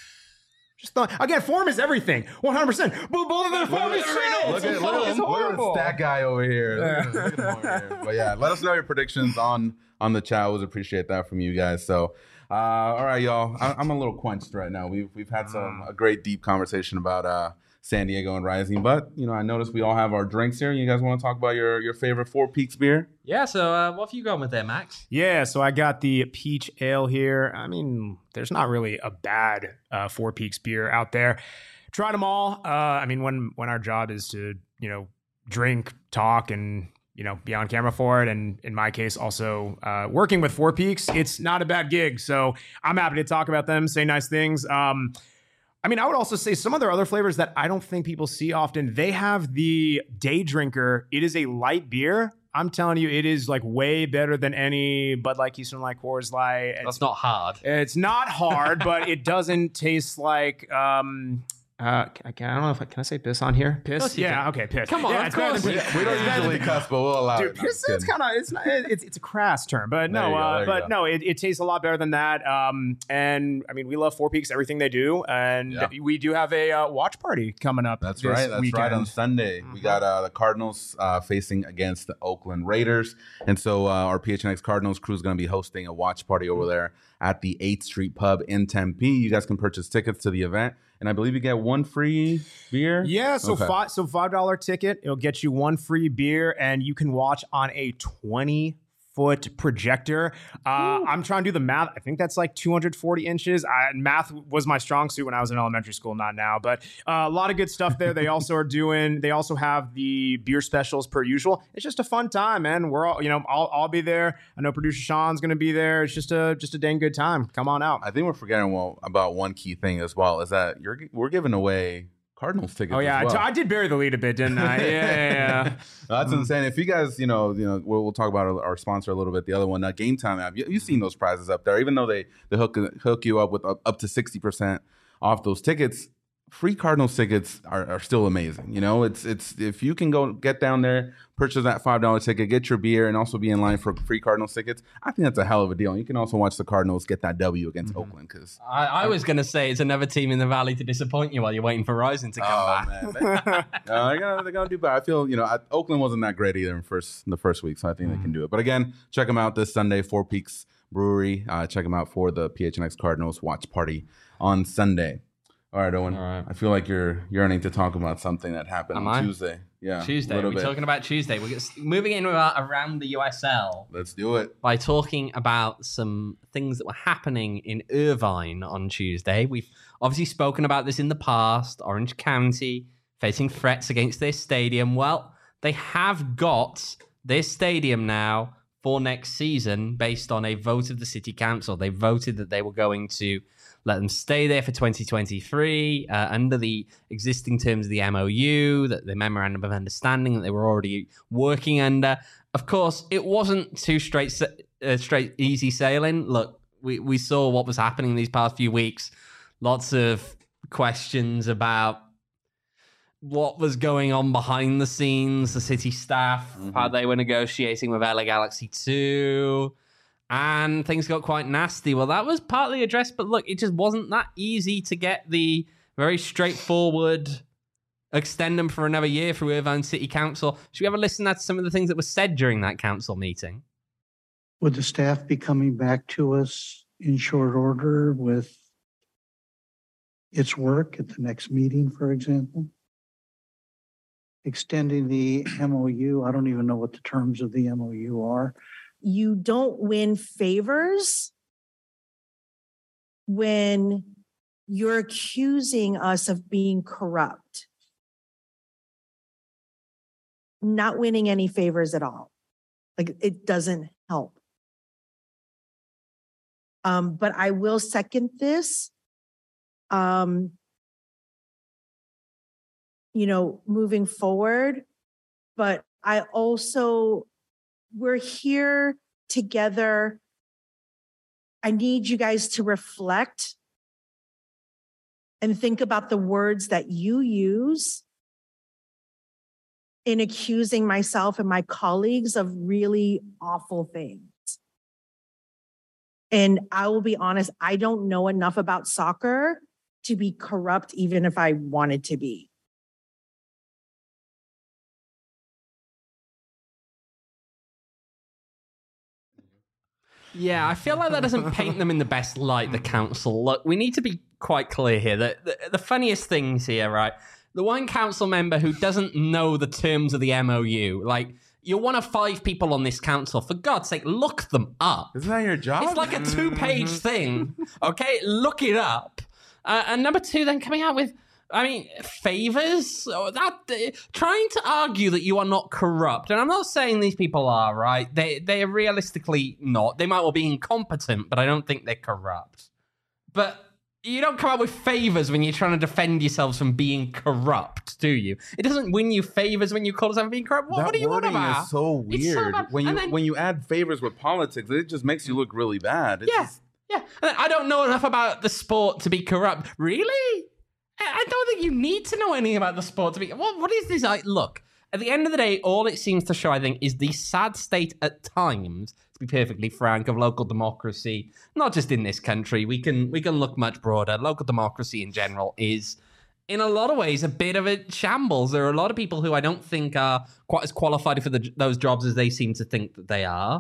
Just thought, again, form is everything. one hundred percent. But both of their form is shit. Look It's at, look, at, it's look at horrible. the stat guy over here. Look at, look at him over here. But yeah, let us know your predictions on on the chat. Always appreciate that from you guys. So, uh, all right, y'all. I, I'm a little quenched right now. We've we've had some a great deep conversation about uh, San Diego and Rising, but you know, I noticed we all have our drinks here. You guys want to talk about your your favorite Four Peaks beer? Yeah. So, uh, what have you gone with there, Max? Yeah, so I got the peach ale here. I mean, there's not really a bad uh, Four Peaks beer out there. Tried them all. Uh, I mean, when when our job is to, you know, drink, talk, and, you know, be on camera for it, and in my case, also uh, working with Four Peaks, it's not a bad gig. So I'm happy to talk about them, say nice things. Um, I mean, I would also say some of their other flavors that I don't think people see often. They have the Day Drinker. It is a light beer. I'm telling you, it is like way better than any Bud Light, Keystone Light, Coors Light. It's, That's not hard. it's not hard, but it doesn't taste like. Um, uh, I, can, I don't know if I can I say piss on here. Piss, course you yeah, can. okay, piss. Come on, yeah, of it's better course. than We, piss. we don't It's better usually than- cuss, but we'll allow Dude, it. No, piss, I'm it's kidding. kind of it's not it's it's a crass term, but There no, you go, uh, there you but go. no, it, it tastes a lot better than that. Um, and I mean, we love Four Peaks, everything they do, and Yeah. we do have a uh, watch party coming up. That's this right. That's weekend. right. On Sunday, we got uh, the Cardinals uh, facing against the Oakland Raiders, and so uh, our P H N X Cardinals crew is going to be hosting a watch party over there at the eighth Street Pub in Tempe. You guys can purchase tickets to the event, and I believe you get one free beer. Yeah, so Okay. five so five dollar ticket. It'll get you one free beer, and you can watch on a twenty foot projector. Uh, I'm trying to do the math. I think that's like two hundred forty inches. I, math was my strong suit when I was in elementary school, not now. But uh, a lot of good stuff there. They also are doing. They also have the beer specials per usual. It's just a fun time, man. We're all, you know, I'll, I'll be there. I know producer Sean's going to be there. It's just a just a dang good time. Come on out. I think we're forgetting well, about one key thing as well. Is that you're we're giving away Cardinals tickets. Oh yeah, as well. I, t- I did bury the lead a bit, didn't I? Yeah, yeah, yeah. That's insane. If you guys, you know, you know, we'll, we'll talk about our, our sponsor a little bit. The other one, uh, Game Time app. You, you've seen those prizes up there. Even though they they hook hook you up with up, up to sixty percent off those tickets, free Cardinals tickets are, are still amazing. You know, it's it's if you can go get down there, purchase that five dollar ticket, get your beer, and also be in line for free Cardinals tickets. I think that's a hell of a deal. And you can also watch the Cardinals get that W against Mm-hmm. Oakland because. I, I was going to say it's another team in the Valley to disappoint you while you're waiting for Rising to come Oh back. man, they, uh, they're gonna they're gonna do bad. I feel you know I, Oakland wasn't that great either in first in the first week, so I think they can do it. But again, check them out this Sunday, Four Peaks Brewery. Uh, check them out for the P H N X Cardinals watch party on Sunday. All right, Owen. All right. I feel like you're yearning to talk about something that happened Am on I? Tuesday. Yeah, Tuesday. a We're little bit. talking about Tuesday. We're gets- moving in about around the U S L Let's do it. by talking about some things that were happening in Irvine on Tuesday. We've obviously spoken about this in the past. Orange County facing threats against their stadium. Well, they have got their stadium now for next season based on a vote of the city council. They voted that they were going to let them stay there for twenty twenty-three uh, under the existing terms of the M O U, that the memorandum of understanding that they were already working under. Of course, it wasn't too straight, sa- uh, straight, easy sailing. Look, we, we saw what was happening these past few weeks. Lots of questions about what was going on behind the scenes, the city staff, Mhm. how they were negotiating with L A Galaxy two. And things got quite nasty. Well, that was partly addressed, but look, it just wasn't that easy to get the very straightforward extend them for another year through Irvine City Council. Should we have a listen to some of the things that were said during that council meeting? Would the staff be coming back to us in short order with its work at the next meeting, for example? Extending the M O U, I don't even know what the terms of the M O U are. You don't win favors when you're accusing us of being corrupt. Not winning any favors at all. Like, it doesn't help. Um, but I will second this. Um, you know, moving forward. But I also, we're here together. I need you guys to reflect and think about the words that you use in accusing myself and my colleagues of really awful things. And I will be honest, I don't know enough about soccer to be corrupt, even if I wanted to be. Yeah, I feel like that doesn't paint them in the best light, the council. Look, we need to be quite clear here. The, the, the funniest things here, right? The one council member who doesn't know the terms of the M O U, like, you're one of five people on this council. For God's sake, look them up. Isn't that your job? It's like a two-page thing, okay? Look it up. Uh, and number two, then coming out with, I mean, favors? Or that uh, trying to argue that you are not corrupt. And I'm not saying these people are, right? They, they're realistically not. They might well be incompetent, but I don't think they're corrupt. But you don't come up with favors when you're trying to defend yourselves from being corrupt, do you? It doesn't win you favors when you call yourself being corrupt. What, that what are you on wording about? is so It's so weird. bad. when you And then- when you add favors with politics, it just makes you look really bad. It's Yeah, just- yeah. And I don't know enough about the sport to be corrupt. Really? I I don't think you need to know anything about the sport to be. What, what is this? I, look, at the end of the day, all it seems to show, I think, is the sad state at times, to be perfectly frank, of local democracy. Not just in this country. We can we can look much broader. Local democracy in general is, in a lot of ways, a bit of a shambles. There are a lot of people who I don't think are quite as qualified for the, those jobs as they seem to think that they are.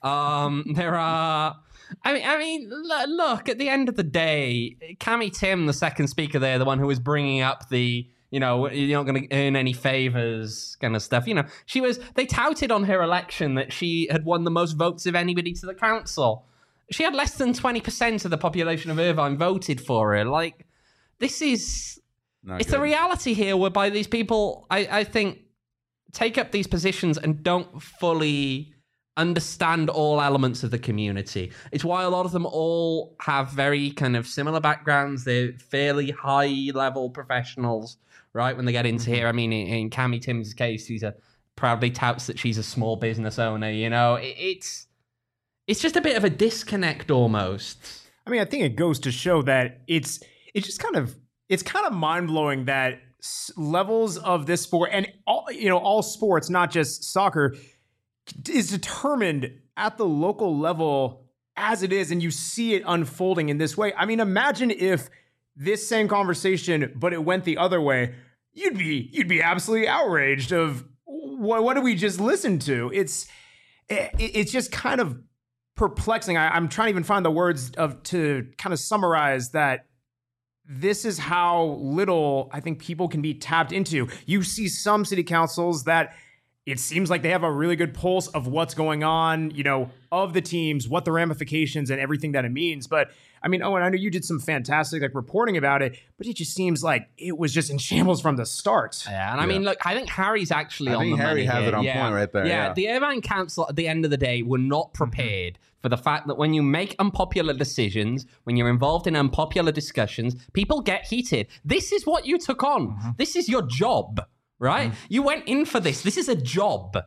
Um, there are. I mean, I mean, look. At the end of the day, Cami Tim, the second speaker there, the one who was bringing up the, you know, you're not going to earn any favors kind of stuff. You know, she was. They touted on her election that she had won the most votes of anybody to the council. She had less than twenty percent of the population of Irvine voted for her. Like, this is. Not it's good. the reality here, whereby these people, I, I think, take up these positions and don't fully understand all elements of the community. It's why a lot of them all have very kind of similar backgrounds. They're fairly high-level professionals, right? When they get into here, I mean, in, in Cami Tim's case, she's a proudly touts that she's a small business owner. You know, it, it's it's just a bit of a disconnect almost. I mean, I think it goes to show that it's it's just kind of it's kind of mind blowing that s- levels of this sport and all you know all sports, not just soccer, is determined at the local level as it is, and you see it unfolding in this way. I mean, imagine if this same conversation, but it went the other way. You'd be you'd be absolutely outraged of what what did we just listen to? It's it, it's just kind of perplexing. I, I'm trying to even find the words of to kind of summarize that. This is how little I think people can be tapped into. You see some city councils that it seems like they have a really good pulse of what's going on, you know, of the teams, what the ramifications and everything that it means. But I mean, Owen, I know you did some fantastic like reporting about it, but it just seems like it was just in shambles from the start. Yeah, and I Yeah. mean, look, I think Harry's actually I on think the Harry money has here. it on yeah. point right there, yeah. the Irvine Council at the end of the day were not prepared mm-hmm. for the fact that when you make unpopular decisions, when you're involved in unpopular discussions, people get heated. This is what you took on. Mm-hmm. This is your job, right? Mm-hmm. You went in for this. This is a job.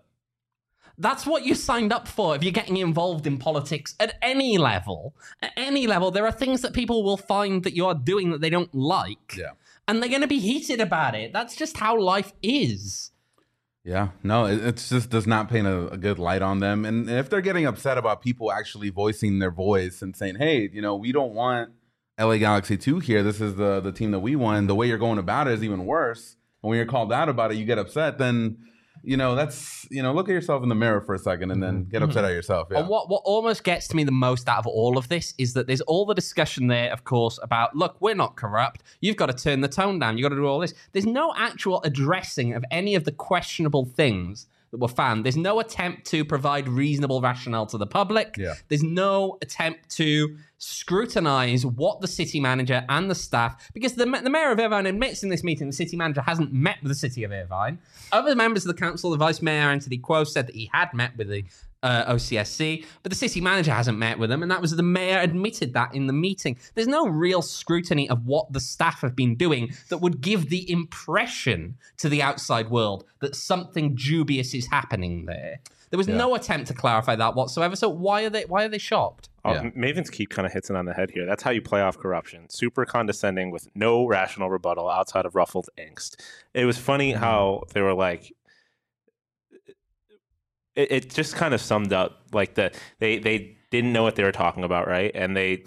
That's what you signed up for if you're getting involved in politics at any level. At any level, there are things that people will find that you are doing that they don't like. Yeah. And they're going to be heated about it. That's just how life is. Yeah, no, it it's just does not paint a, a good light on them. And if they're getting upset about people actually voicing their voice and saying, hey, you know, we don't want L A Galaxy two here. This is the, the team that we won. The way you're going about it is even worse. And when you're called out about it, you get upset, then... You know, that's, you know, look at yourself in the mirror for a second and then get upset at yourself. Yeah. And what, what almost gets to me the most out of all of this is that there's all the discussion there, of course, about, look, we're not corrupt. You've got to turn the tone down. You've got to do all this. There's no actual addressing of any of the questionable things that were found. There's no attempt to provide reasonable rationale to the public. Yeah. There's no attempt to scrutinize what the city manager and the staff, because the, the mayor of Irvine admits in this meeting the city manager hasn't met with the city of Irvine. Other members of the council, the vice mayor, Anthony Quo, said that he had met with the uh, O C S C, but the city manager hasn't met with them, and that was the mayor admitted that in the meeting. There's no real scrutiny of what the staff have been doing that would give the impression to the outside world that something dubious is happening there. There was yeah. no attempt to clarify that whatsoever. So why are they why are they shocked? Oh, yeah. Maven's Keep kind of hits it on the head here. That's how you play off corruption. Super condescending with no rational rebuttal outside of ruffled angst. It was funny mm-hmm. how they were like, it, it just kind of summed up like the they they didn't know what they were talking about, right? And they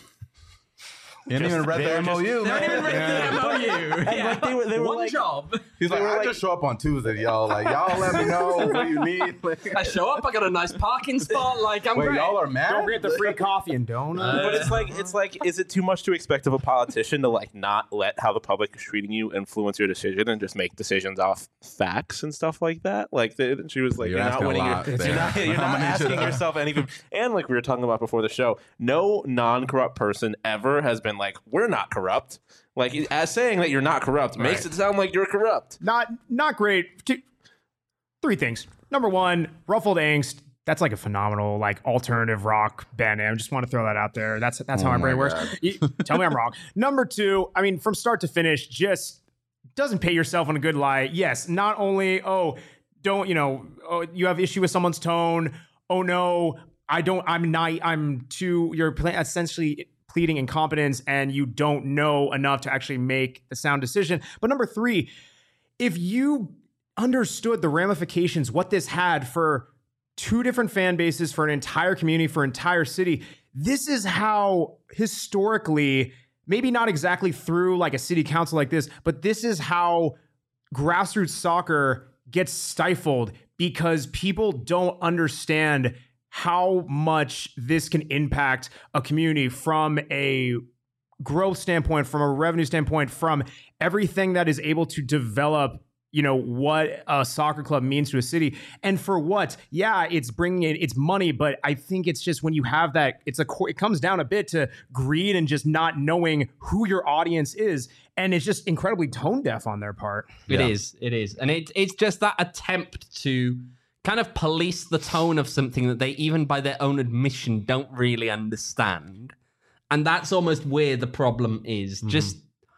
You didn't even read the M O U, They man. didn't even read the M O U. Yeah. Like they were, they were One like, job. He's like, I like- just show up on Tuesday, y'all. Like, y'all let me know what you need. Like, I show up, I got a nice parking spot. Like, I'm wait, great. y'all are mad? Don't forget the free coffee and donuts. But it's like it's like is it too much to expect of a politician to like not let how the public is treating you influence your decision and just make decisions off facts and stuff like that? Like the, she was like, You're you're, not asking a winning. lot Your, there. you're not, you're I'm not gonna need you asking to- yourself anything. And like we were talking about before the show, no non-corrupt person ever has been like, we're not corrupt. Like as saying that you're not corrupt makes Right. it sound like you're corrupt. Not not great. Two, three things. Number one, Ruffled Angst. That's like a phenomenal like alternative rock band name. I just want to throw that out there. That's that's how Oh my brain my works. God. You- Tell me I'm wrong. Number two, I mean, from start to finish, just doesn't pay yourself on a good lie. Yes, not only oh, don't you know, oh, you have issue with someone's tone. Oh no, I don't. I'm not. I'm too. You're pla- essentially pleading incompetence, and you don't know enough to actually make the sound decision. But number three, if you understood the ramifications, what this had for two different fan bases, for an entire community, for an entire city, this is how historically, maybe not exactly through like a city council like this, but this is how grassroots soccer gets stifled because people don't understand how much this can impact a community from a growth standpoint, from a revenue standpoint, from everything that is able to develop, you know, what a soccer club means to a city. And for what? Yeah, it's bringing in, it's money, but I think it's just when you have that, it's a, it comes down a bit to greed and just not knowing who your audience is. And it's just incredibly tone deaf on their part. It Yeah. is. It is. And it, it's just that attempt to kind of police the tone of something that they, even by their own admission, don't really understand. And that's almost where the problem is. Mm-hmm. Just,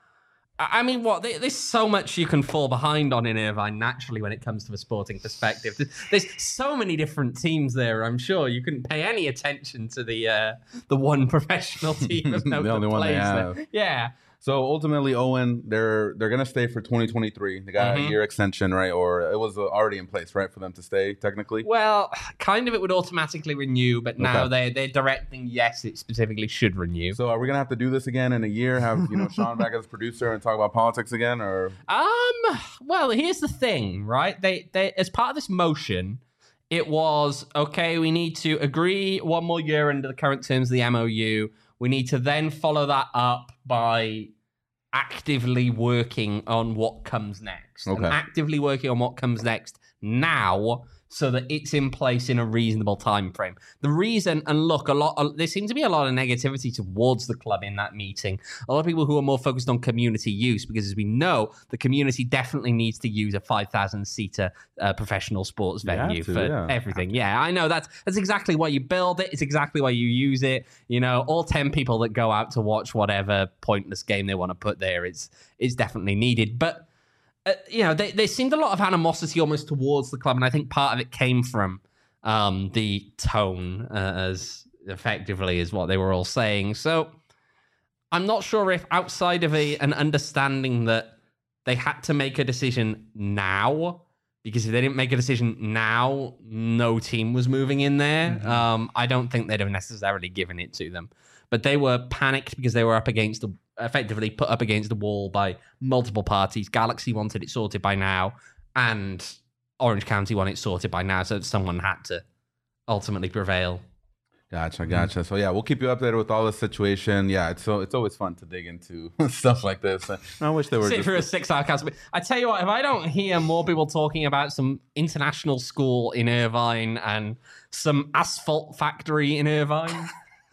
I mean, what? There's so much you can fall behind on in Irvine naturally when it comes to a sporting perspective. There's, there's so many different teams there. I'm sure you couldn't pay any attention to the uh, the one professional team of note The only that one they plays have. there. Yeah. So ultimately, Owen, they're they're gonna stay for twenty twenty-three. They got Mhm. a year extension, right? Or it was uh, already in place, right, for them to stay technically. Well, kind of it would automatically renew, but now Okay. they they're directing yes, it specifically should renew. So are we gonna have to do this again in a year? Have you know Sean back as producer and talk about politics again, or Um. Well, here's the thing, right? They they as part of this motion, it was okay. We need to agree one more year under the current terms of the M O U. We need to then follow that up by actively working on what comes next. And Okay. actively working on what comes next now, so that it's in place in a reasonable time frame. The reason, and look, a lot, uh, there seemed to be a lot of negativity towards the club in that meeting. A lot of people who are more focused on community use, because as we know, the community definitely needs to use a five thousand seater uh, professional sports You have venue to, for yeah. everything. Yeah, I know that's that's exactly why you build it. It's exactly why you use it. You know, all ten people that go out to watch whatever pointless game they want to put there, it's it's definitely needed. But Uh, you know, they, there seemed a lot of animosity almost towards the club, and I think part of it came from um, the tone, uh, as effectively as what they were all saying. So I'm not sure if outside of a, an understanding that they had to make a decision now, because if they didn't make a decision now, no team was moving in there. Mm-hmm. Um, I don't think they'd have necessarily given it to them. But they were panicked because they were up against the, effectively put up against the wall by multiple parties. Galaxy wanted it sorted by now, and Orange County wanted it sorted by now, so someone had to ultimately prevail. Gotcha, gotcha. So yeah, we'll keep you updated with all the situation. Yeah, it's so it's always fun to dig into stuff like this. I wish they were Sit just through a six-hour cast. I tell you what, if I don't hear more people talking about some international school in Irvine and some asphalt factory in Irvine,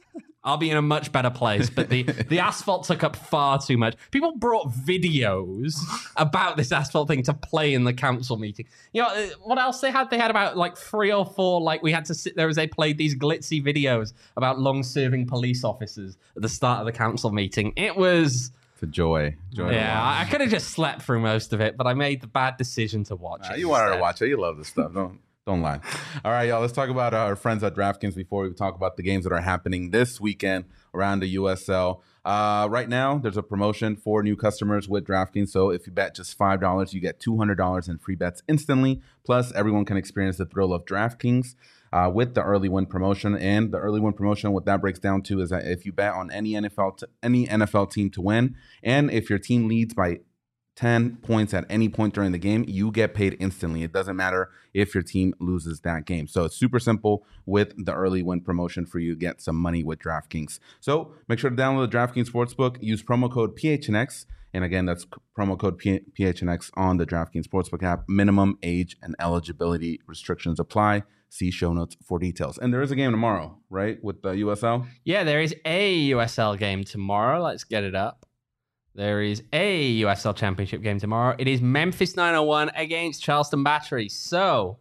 I'll be in a much better place. But the, the asphalt took up far too much. People brought videos about this asphalt thing to play in the council meeting. You know, uh, what else they had? They had about like three or four, like we had to sit there as they played these glitzy videos about long-serving police officers at the start of the council meeting. It was... It's a joy. joy Yeah, I, I could have just slept through most of it, but I made the bad decision to watch Nah, it. you wanted instead. to watch it. You love this stuff. Don't don't lie. All right, y'all. Let's talk about our friends at DraftKings before we talk about the games that are happening this weekend around the U S L. Uh, right now, there's a promotion for new customers with DraftKings. So if you bet just five dollars, you get two hundred dollars in free bets instantly. Plus, everyone can experience the thrill of DraftKings uh, with the early win promotion. And the early win promotion, what that breaks down to is that if you bet on any N F L t- any N F L team to win, and if your team leads by ten points at any point during the game, you get paid instantly. It doesn't matter if your team loses that game. So it's super simple with the early win promotion for you to get some money with DraftKings. So make sure to download the DraftKings Sportsbook. Use promo code P H N X. And again, that's promo code P H N X on the DraftKings Sportsbook app. Minimum age and eligibility restrictions apply. See show notes for details. And there is a game tomorrow, right, with the U S L? Yeah, there is a U S L game tomorrow. Let's get it up. There is a U S L Championship game tomorrow. It is Memphis nine oh one against Charleston Battery. So,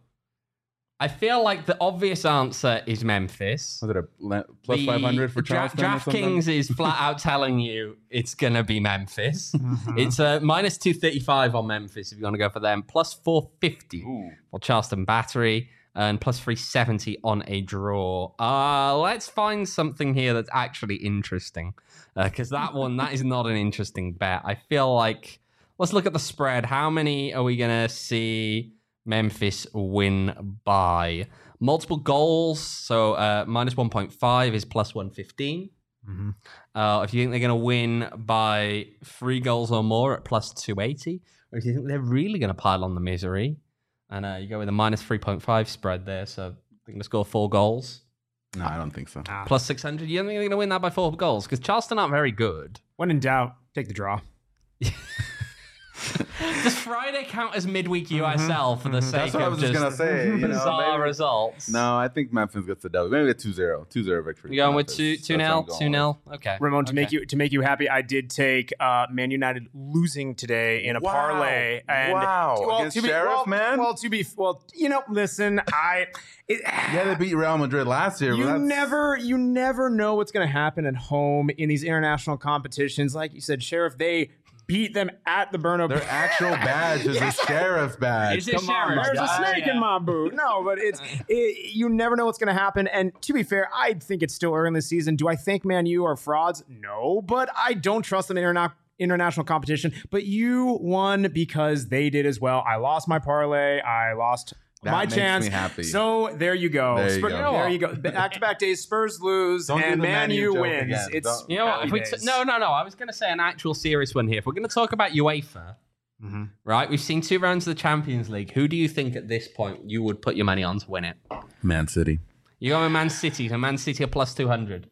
I feel like the obvious answer is Memphis. Was it a le- plus The five hundred for Dra- Charleston or something? DraftKings is flat out telling you it's going to be Memphis. It's a uh, minus two thirty-five on Memphis if you want to go for them. Plus four fifty Ooh. for Charleston Battery. And plus three seventy on a draw. Uh, let's find something here that's actually interesting. Because uh, that one, that is not an interesting bet. I feel like, let's look at the spread. How many are we going to see Memphis win by? Multiple goals. So uh, minus one point five is plus one fifteen. Mm-hmm. Uh, if you think they're going to win by three goals or more at plus two eighty, or if you think they're really going to pile on the misery, and uh, you go with a minus three point five spread there, so they're going to score four goals. No, I don't think so. Ah. Plus six hundred. You don't think they're going to win that by four goals? Because Charleston aren't very good. When in doubt, take the draw. Does Friday count as midweek U S L for the sake That's what I of was just just going to say. You know, bizarre maybe- results? No, I think Memphis gets the W. Maybe a two zero. two zero victory. You're going with Memphis. two two That's what nil, I'm going two nil. Okay, Ramon, to okay. make you to make you happy, I did take uh, Man United losing today in a Wow. parlay. And Wow. well, Against to be, Sheriff, well, man? Well, to be well, you know, listen, I. It, Yeah, they beat Real Madrid last year. You but that's, never, you never know what's going to happen at home in these international competitions. Like you said, Sheriff, they beat them at the Bernabeu. Their actual badge is Yes. a sheriff's badge. Is it Come on, Sheriff? there's a Yeah, snake yeah. in my boot. No, but it's it, you never know what's going to happen. And to be fair, I think it's still early in the season. Do I think Man U are frauds? No, but I don't trust them in interna- international competition. But you won because they did as well. I lost my parlay. I lost. That my makes chance. me happy. So there you go. There you Spur- go. There you go. Back-to-back days, Spurs lose Don't do and the Man Man U U joke wins. again. It's Don't- You know what? happy If we t- days. no, no, no. I was going to say an actual serious one here. If we're going to talk about UEFA, Mhm. right? We've seen two rounds of the Champions League. Who do you think at this point you would put your money on to win it? Man City. You're going Man City. So Man City are plus two hundred.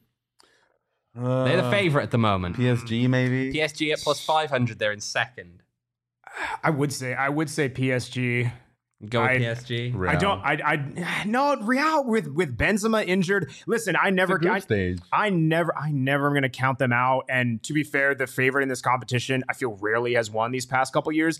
Uh, They're the favourite at the moment. P S G, maybe? P S G at plus five hundred. They're in second. I would say I would say P S G. Go with I- P S G. Real. I don't. I. I. No, Real with with Benzema injured. Listen, I It's a never. group I, stage. I never. I never am going to count them out. And to be fair, the favorite in this competition, I feel rarely has won these past couple years.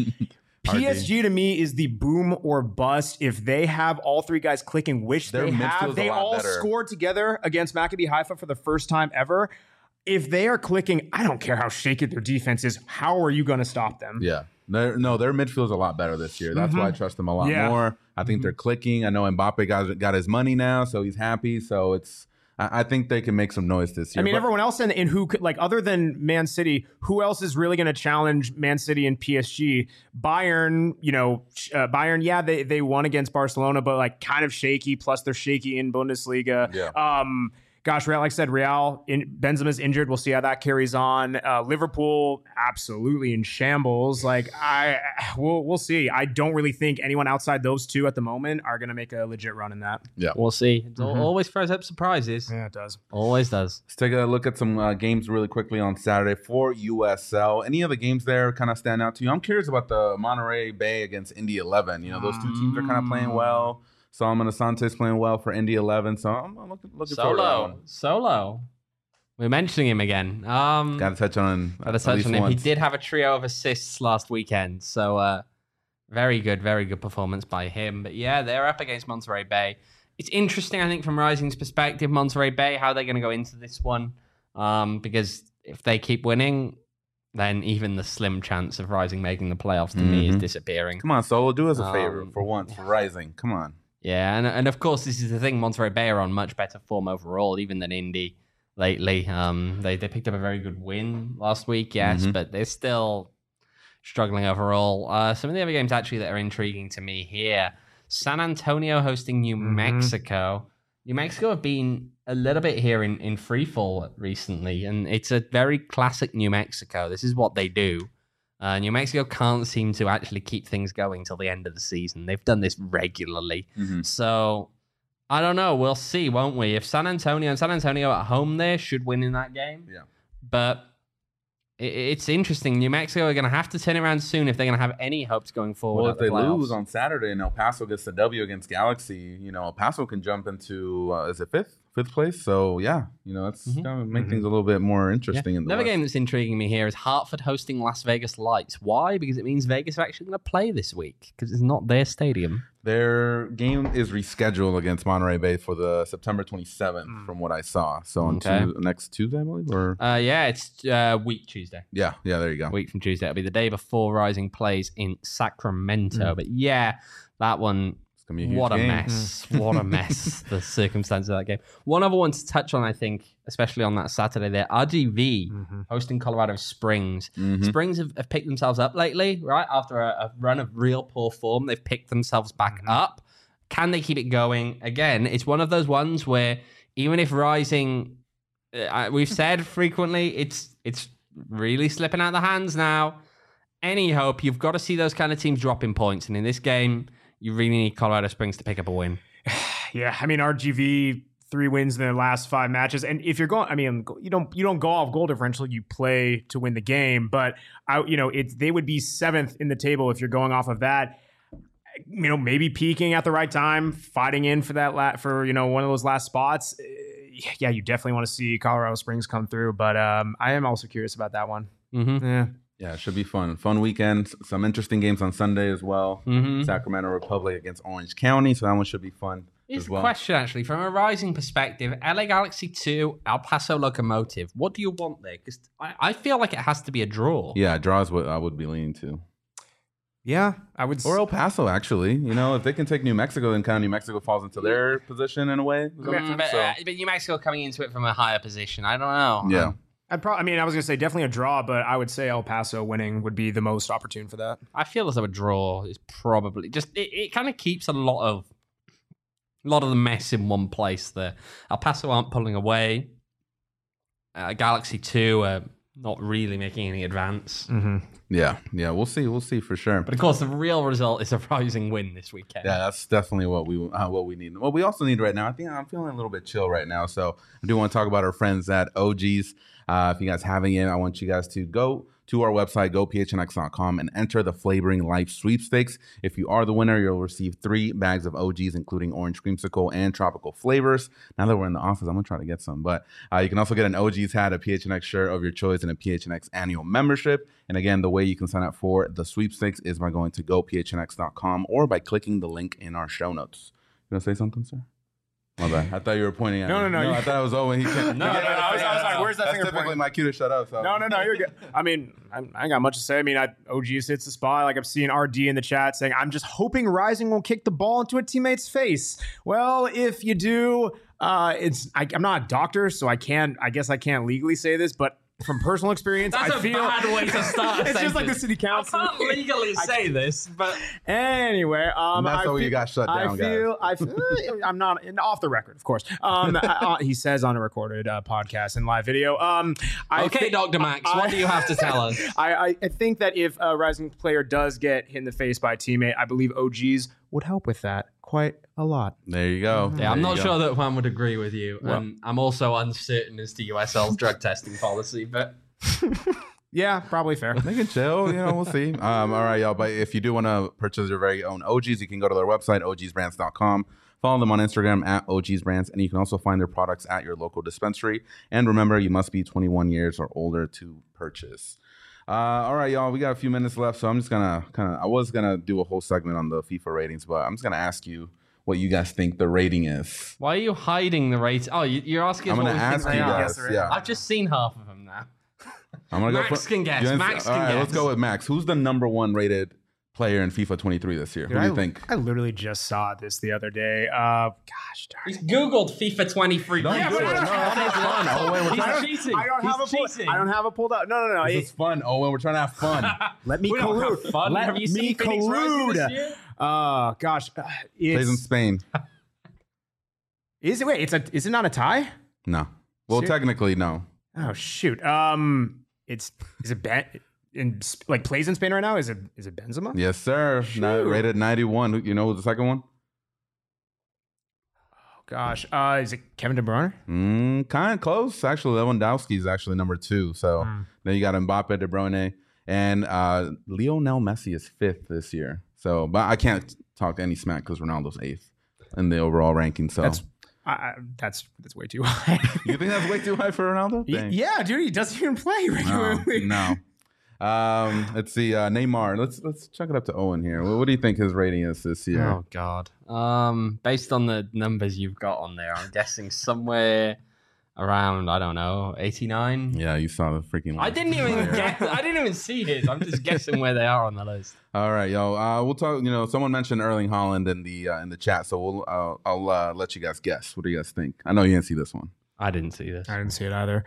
P S G to me is the boom or bust. If they have all three guys clicking, which Their they midfield's have, a they lot all better. scored together against Maccabi Haifa for the first time ever. If they are clicking, I don't care how shaky their defense is. How are you going to stop them? Yeah. They're, no, their midfield's a lot better this year. That's why I trust them a lot Yeah. more. I think they're clicking. I know Mbappe got got his money now, so he's happy. So it's I, I think they can make some noise this year. I mean, But- everyone else in, in who could, like, other than Man City, who else is really going to challenge Man City and P S G? Bayern, you know, uh, Bayern, yeah, they they won against Barcelona, but like kind of shaky. Plus, they're shaky in Bundesliga. Yeah. Um, gosh, Real, like I said, Real, in, Benzema's injured. We'll see how that carries on. Uh, Liverpool, absolutely in shambles. Like, I, we'll we'll see. I don't really think anyone outside those two at the moment are going to make a legit run in that. We'll see. It Mhm. always throws up surprises. Yeah, it does. Always does. Let's take a look at some uh, games really quickly on Saturday for U S L. Any of the games there kind of stand out to you? I'm curious about the Monterey Bay against Indy eleven. You know, those two teams are kind of playing well. Solomon Asante's playing well for Indy eleven, so I'm I'm looking, looking forward to that Solo. one. Solo. We're mentioning him again. Um, Got to touch on. Got to touch on him. Once. He did have a trio of assists last weekend, so uh, very good, very good performance by him. But yeah, they're up against Monterey Bay. It's interesting, I think, from Rising's perspective, Monterey Bay, how they're going to go into this one, um, because if they keep winning, then even the slim chance of Rising making the playoffs to mm-hmm. me is disappearing. Come on, Solo, do us a favor um, for once for Rising. Come on. Yeah, and and of course, this is the thing. Monterey Bay are on much better form overall, even than Indy. Lately, um, they they picked up a very good win last week, yes, mm-hmm. but they're still struggling overall. Uh, some of the other games actually that are intriguing to me here: San Antonio hosting New mm-hmm. Mexico. New Mexico have been a little bit here in in freefall recently, and it's a very classic New Mexico. This is what they do. Uh, New Mexico can't seem to actually keep things going till the end of the season. They've done this regularly, mm-hmm. so. I don't know. We'll see, won't we? If San Antonio and San Antonio at home there should win in that game. Yeah. But it, it's interesting. New Mexico are going to have to turn it around soon if they're going to have any hopes going forward. Well, if the they playoffs. lose on Saturday and El Paso gets the W against Galaxy, you know, El Paso can jump into, uh, is it fifth? Fifth place? So, yeah, you know, it's mm-hmm. going to make mm-hmm. things a little bit more interesting. Yeah. In the Another West. game that's intriguing me here is Hartford hosting Las Vegas Lights. Why? Because it means Vegas are actually going to play this week because it's not their stadium. Their game is rescheduled against Monterey Bay for the September twenty-seventh, mm. from what I saw. So on okay. tu- next Tuesday, I believe? Or? Uh, yeah, it's uh, week Tuesday. Yeah, yeah, there you go. Week from Tuesday. It'll be the day before Rising plays in Sacramento. Mm. But yeah, that one... What a game. mess. What a mess, the circumstances of that game. One other one to touch on, I think, especially on that Saturday there, R G V mm-hmm. hosting Colorado Springs. Mm-hmm. Springs have, have picked themselves up lately, right? After a, a run of real poor form, they've picked themselves back mm-hmm. up. Can they keep it going? Again, it's one of those ones where even if Rising, uh, we've said frequently, it's it's really slipping out of the hands now. Any hope, you've got to see those kind of teams dropping points. And in this game, you really need Colorado Springs to pick up a win. Yeah, I mean, R G V, three wins in their last five matches. And if you're going, I mean, you don't you don't go off goal differential, you play to win the game. But, I, you know, it, they would be seventh in the table if you're going off of that. You know, maybe peaking at the right time, fighting in for that, la- for, you know, one of those last spots. Yeah, you definitely want to see Colorado Springs come through. But um, I am also curious about that one. Mm-hmm. Yeah. Yeah, it should be fun. Fun weekend. Some interesting games on Sunday as well. Mm-hmm. Sacramento Republic against Orange County, so that one should be fun. Here's as well. the question, actually, from a Rising perspective: L A Galaxy two, El Paso Locomotive. What do you want there? Because I, I feel like it has to be a draw. Yeah, draw is what I would be leaning to. Yeah, I would. Or El Paso, actually. You know, if they can take New Mexico, then kind of New Mexico falls into their position in a way. Mm, but, so. uh, but New Mexico coming into it from a higher position. I don't know. Yeah. Um, I'd probably, I mean, I was going to say definitely a draw, but I would say El Paso winning would be the most opportune for that. I feel as though a draw is probably just, it, it kind of keeps a lot of, a lot of the mess in one place there. El Paso aren't pulling away. Uh, Galaxy two are not really making any advance. Mm-hmm. Yeah, yeah, we'll see, we'll see for sure. But of course, the real result is a Rising win this weekend. Yeah, that's definitely what we uh, what we need. What we also need right now, I think I'm feeling a little bit chill right now, so I do want to talk about our friends at O G's. Uh, if you guys haven't yet, I want you guys to go to our website, go p h n x dot com, and enter the Flavoring Life sweepstakes. If you are the winner, you'll receive three bags of O Gs, including orange creamsicle and tropical flavors. Now that we're in the office, I'm going to try to get some. But uh, you can also get an O G's hat, a P H N X shirt of your choice, and a P H N X annual membership. And again, the way you can sign up for the sweepstakes is by going to go p h n x dot com or by clicking the link in our show notes. You going to say something, sir? My bad. I thought you were pointing at no, me. No, no, no. I thought it was Owen. He can't. no, no, no. I was, I was like, where's that That's finger typically pointing? my cue to shut up. So. No, no, no. You're good. I mean, I, I ain't got much to say. I mean, I, O G hits the spot. Like, I'm seeing R D in the chat saying, I'm just hoping Rising won't kick the ball into a teammate's face. Well, if you do, uh, it's I, I'm not a doctor, so I can't, I guess I can't legally say this, but from personal experience, That's I a feel bad way to start. It's just like the city council. I can't legally say this, but anyway, um, and that's I how feel, you got shut down. I feel, I feel, I'm not off the record, of course. Um, uh, he says on a recorded uh, podcast and live video. Um, I okay, think, Doctor Max, I, what do you have to tell us? I, I, I think that if a Rising player does get hit in the face by a teammate, I believe O Gs would help with that quite a lot. There you go. Yeah, there I'm not go. sure that Juan would agree with you, well, and I'm also uncertain as to U S L's drug testing policy, but. Yeah, probably fair. They can chill, you know, we'll see. Um, all right, y'all. But if you do want to purchase your very own O Gs, you can go to their website, o gs brands dot com. Follow them on Instagram at O Gs Brands, and you can also find their products at your local dispensary. And remember, you must be twenty-one years or older to purchase. Uh, all right, y'all, we got a few minutes left, so I'm just gonna kind of, I was gonna do a whole segment on the FIFA ratings, but I'm just gonna ask you what you guys think the rating is. Why are you hiding the rating? Oh, you- you're asking us I'm what gonna we think ask they you are. guys. Yeah, I've just seen half of them now. I'm gonna Max go for, can guess. you Max answer- can all right, let's guess. go with Max. Who's the number one rated player in FIFA twenty-three this year? Dude, Who do you I, think? I literally just saw this the other day. Uh, gosh darn He's it. Googled FIFA twenty-three. Don't Yeah, do but it. I No, don't have that's it. fun. Oh, wait, we're He's trying- cheating. I don't He's have it pulled. cheating. I don't have it pulled up. No, no, no. This It- is fun, Owen. We're trying to have fun. let me We don't collude. have fun. Let Have you me seen Phoenix Rising this collude. year? Oh gosh, uh, Plays in it's, Spain. is it? Wait, it's a. Is it not a tie? No. Well, Ser- technically, no. Oh shoot. Um, it's is it ben, in Sp- like plays in Spain right now? Is it is it Benzema? Yes, sir. Ni- Shoot. rated ninety-one. Who- You know who's the second one? Oh gosh. Uh, is it Kevin De Bruyne? Mm, kind of close. Actually, Lewandowski is actually number two. So Mm. then you got Mbappe, De Bruyne, and uh, Lionel Messi is fifth this year. So, but I can't talk any smack because Ronaldo's eighth in the overall ranking. So, That's I, I, that's that's way too high. you think that's way too high for Ronaldo? Y- Dang. yeah, dude, he doesn't even play No, regularly. no. Um, let's see. Uh, Neymar. Let's let's chuck it up to Owen here. What, what do you think his rating is this year? Oh God. Um, based on the numbers you've got on there, I'm guessing somewhere around I don't know, eighty-nine. Yeah, you saw the freaking. I didn't even guess. I didn't even see his. I'm just guessing where they are on the list. All right, yo. Uh, we'll talk. You know, someone mentioned Erling Haaland in the uh, in the chat, so we'll uh, I'll uh, let you guys guess. What do you guys think? I know you didn't see this one. I didn't see this. I didn't see it either.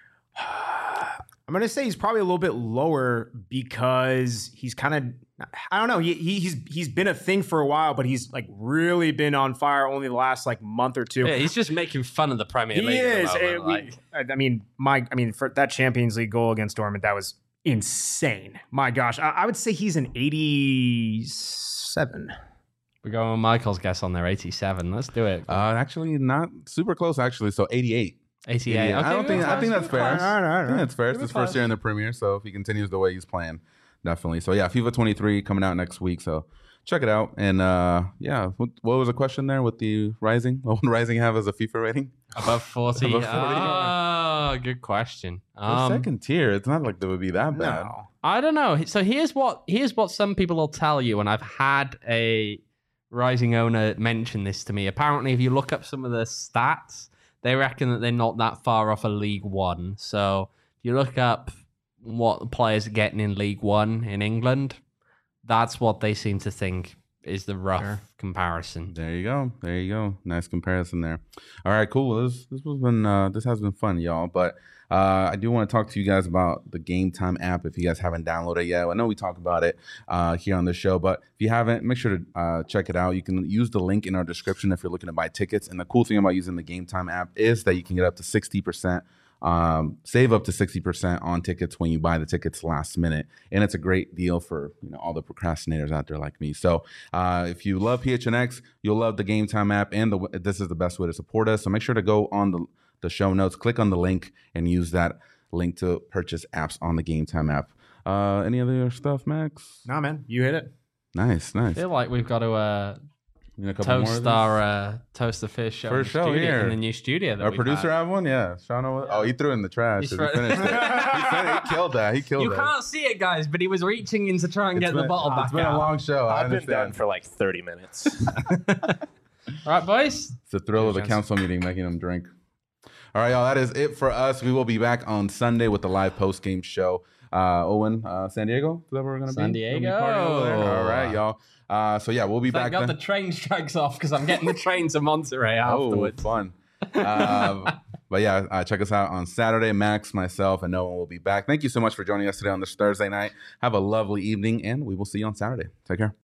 I'm gonna say he's probably a little bit lower because he's kind of I don't know. He, he he's he's been a thing for a while, but he's like really been on fire only the last like month or two. Yeah, he's just making fun of the Premier He League. at the is. moment, It- we- like- I I mean, my I mean, for that Champions League goal against Dortmund, that was insane. My gosh, I, I would say he's an eighty-seven. We're going with Michael's guess on there, eighty-seven. Let's do it. Uh, actually, not super close. Actually, so eighty-eight. eighty-eight. eighty-eight. I don't we're think. I close, think that's we're fair. close. All right, all right, I all think right. that's fair. It's We're his first close. year in the Premier, so if he continues the way he's playing, definitely. So yeah, FIFA twenty-three coming out next week. So check it out. And uh, yeah, what, what was the question there with the Rising? What would Rising have as a FIFA rating? Above forty. Above forty. Oh, good question. The Um, second tier. It's not like they would be that bad. No. I don't know. So here's what here's what some people will tell you, and I've had a Rising owner mention this to me. Apparently, if you look up some of the stats, they reckon that they're not that far off a League One. So if you look up what the players are getting in League One in England, that's what they seem to think is the rough Sure. comparison. There you go. There you go. Nice comparison there. All right, cool. This this has been uh, this has been fun, y'all. But uh, I do want to talk to you guys about the Game Time app. If you guys haven't downloaded it yet, I know we talk about it uh, here on the show, but if you haven't, make sure to uh, check it out. You can use the link in our description if you're looking to buy tickets. And the cool thing about using the Game Time app is that you can get up to sixty percent. Um, save up to sixty percent on tickets when you buy the tickets last minute. And it's a great deal for, you know, all the procrastinators out there like me. So uh, if you love P H N X, you'll love the Game Time app, and the, this is the best way to support us. So make sure to go on the, the show notes, click on the link, and use that link to purchase apps on the Game Time app. Uh, any other stuff, Max? Nah, man, you hit it. Nice, I nice. feel like we've got to uh, You need a couple more of toast these? our uh, toast the fish show, in First the show studio, here. in the new studio. That Our we've producer had. have one? Yeah. Sean, Owen- oh, he threw it in the trash. He's He thro- finished it. he, fin- he killed that. He killed You that. can't see it, guys, but he was reaching in to try and It's get the been- bottle back It's been out. a long show. I I've been done understand. for like thirty minutes. All right, boys. It's the thrill of the Cheers. council meeting, making them drink. All right, y'all. That is it for us. We will be back on Sunday with the live post game show. Uh, Owen, uh, San Diego. Is that where we're gonna San be? We'll be Diego. partying over there? All right, y'all. Uh, so yeah, we'll be Thank back. God then. the train strikes off because I'm getting the train to Monterey Oh, afterwards. fun. um, but yeah, uh, check us out on Saturday. Max, myself, and Noah will be back. Thank you so much for joining us today on this Thursday night. Have a lovely evening, and we will see you on Saturday. Take care.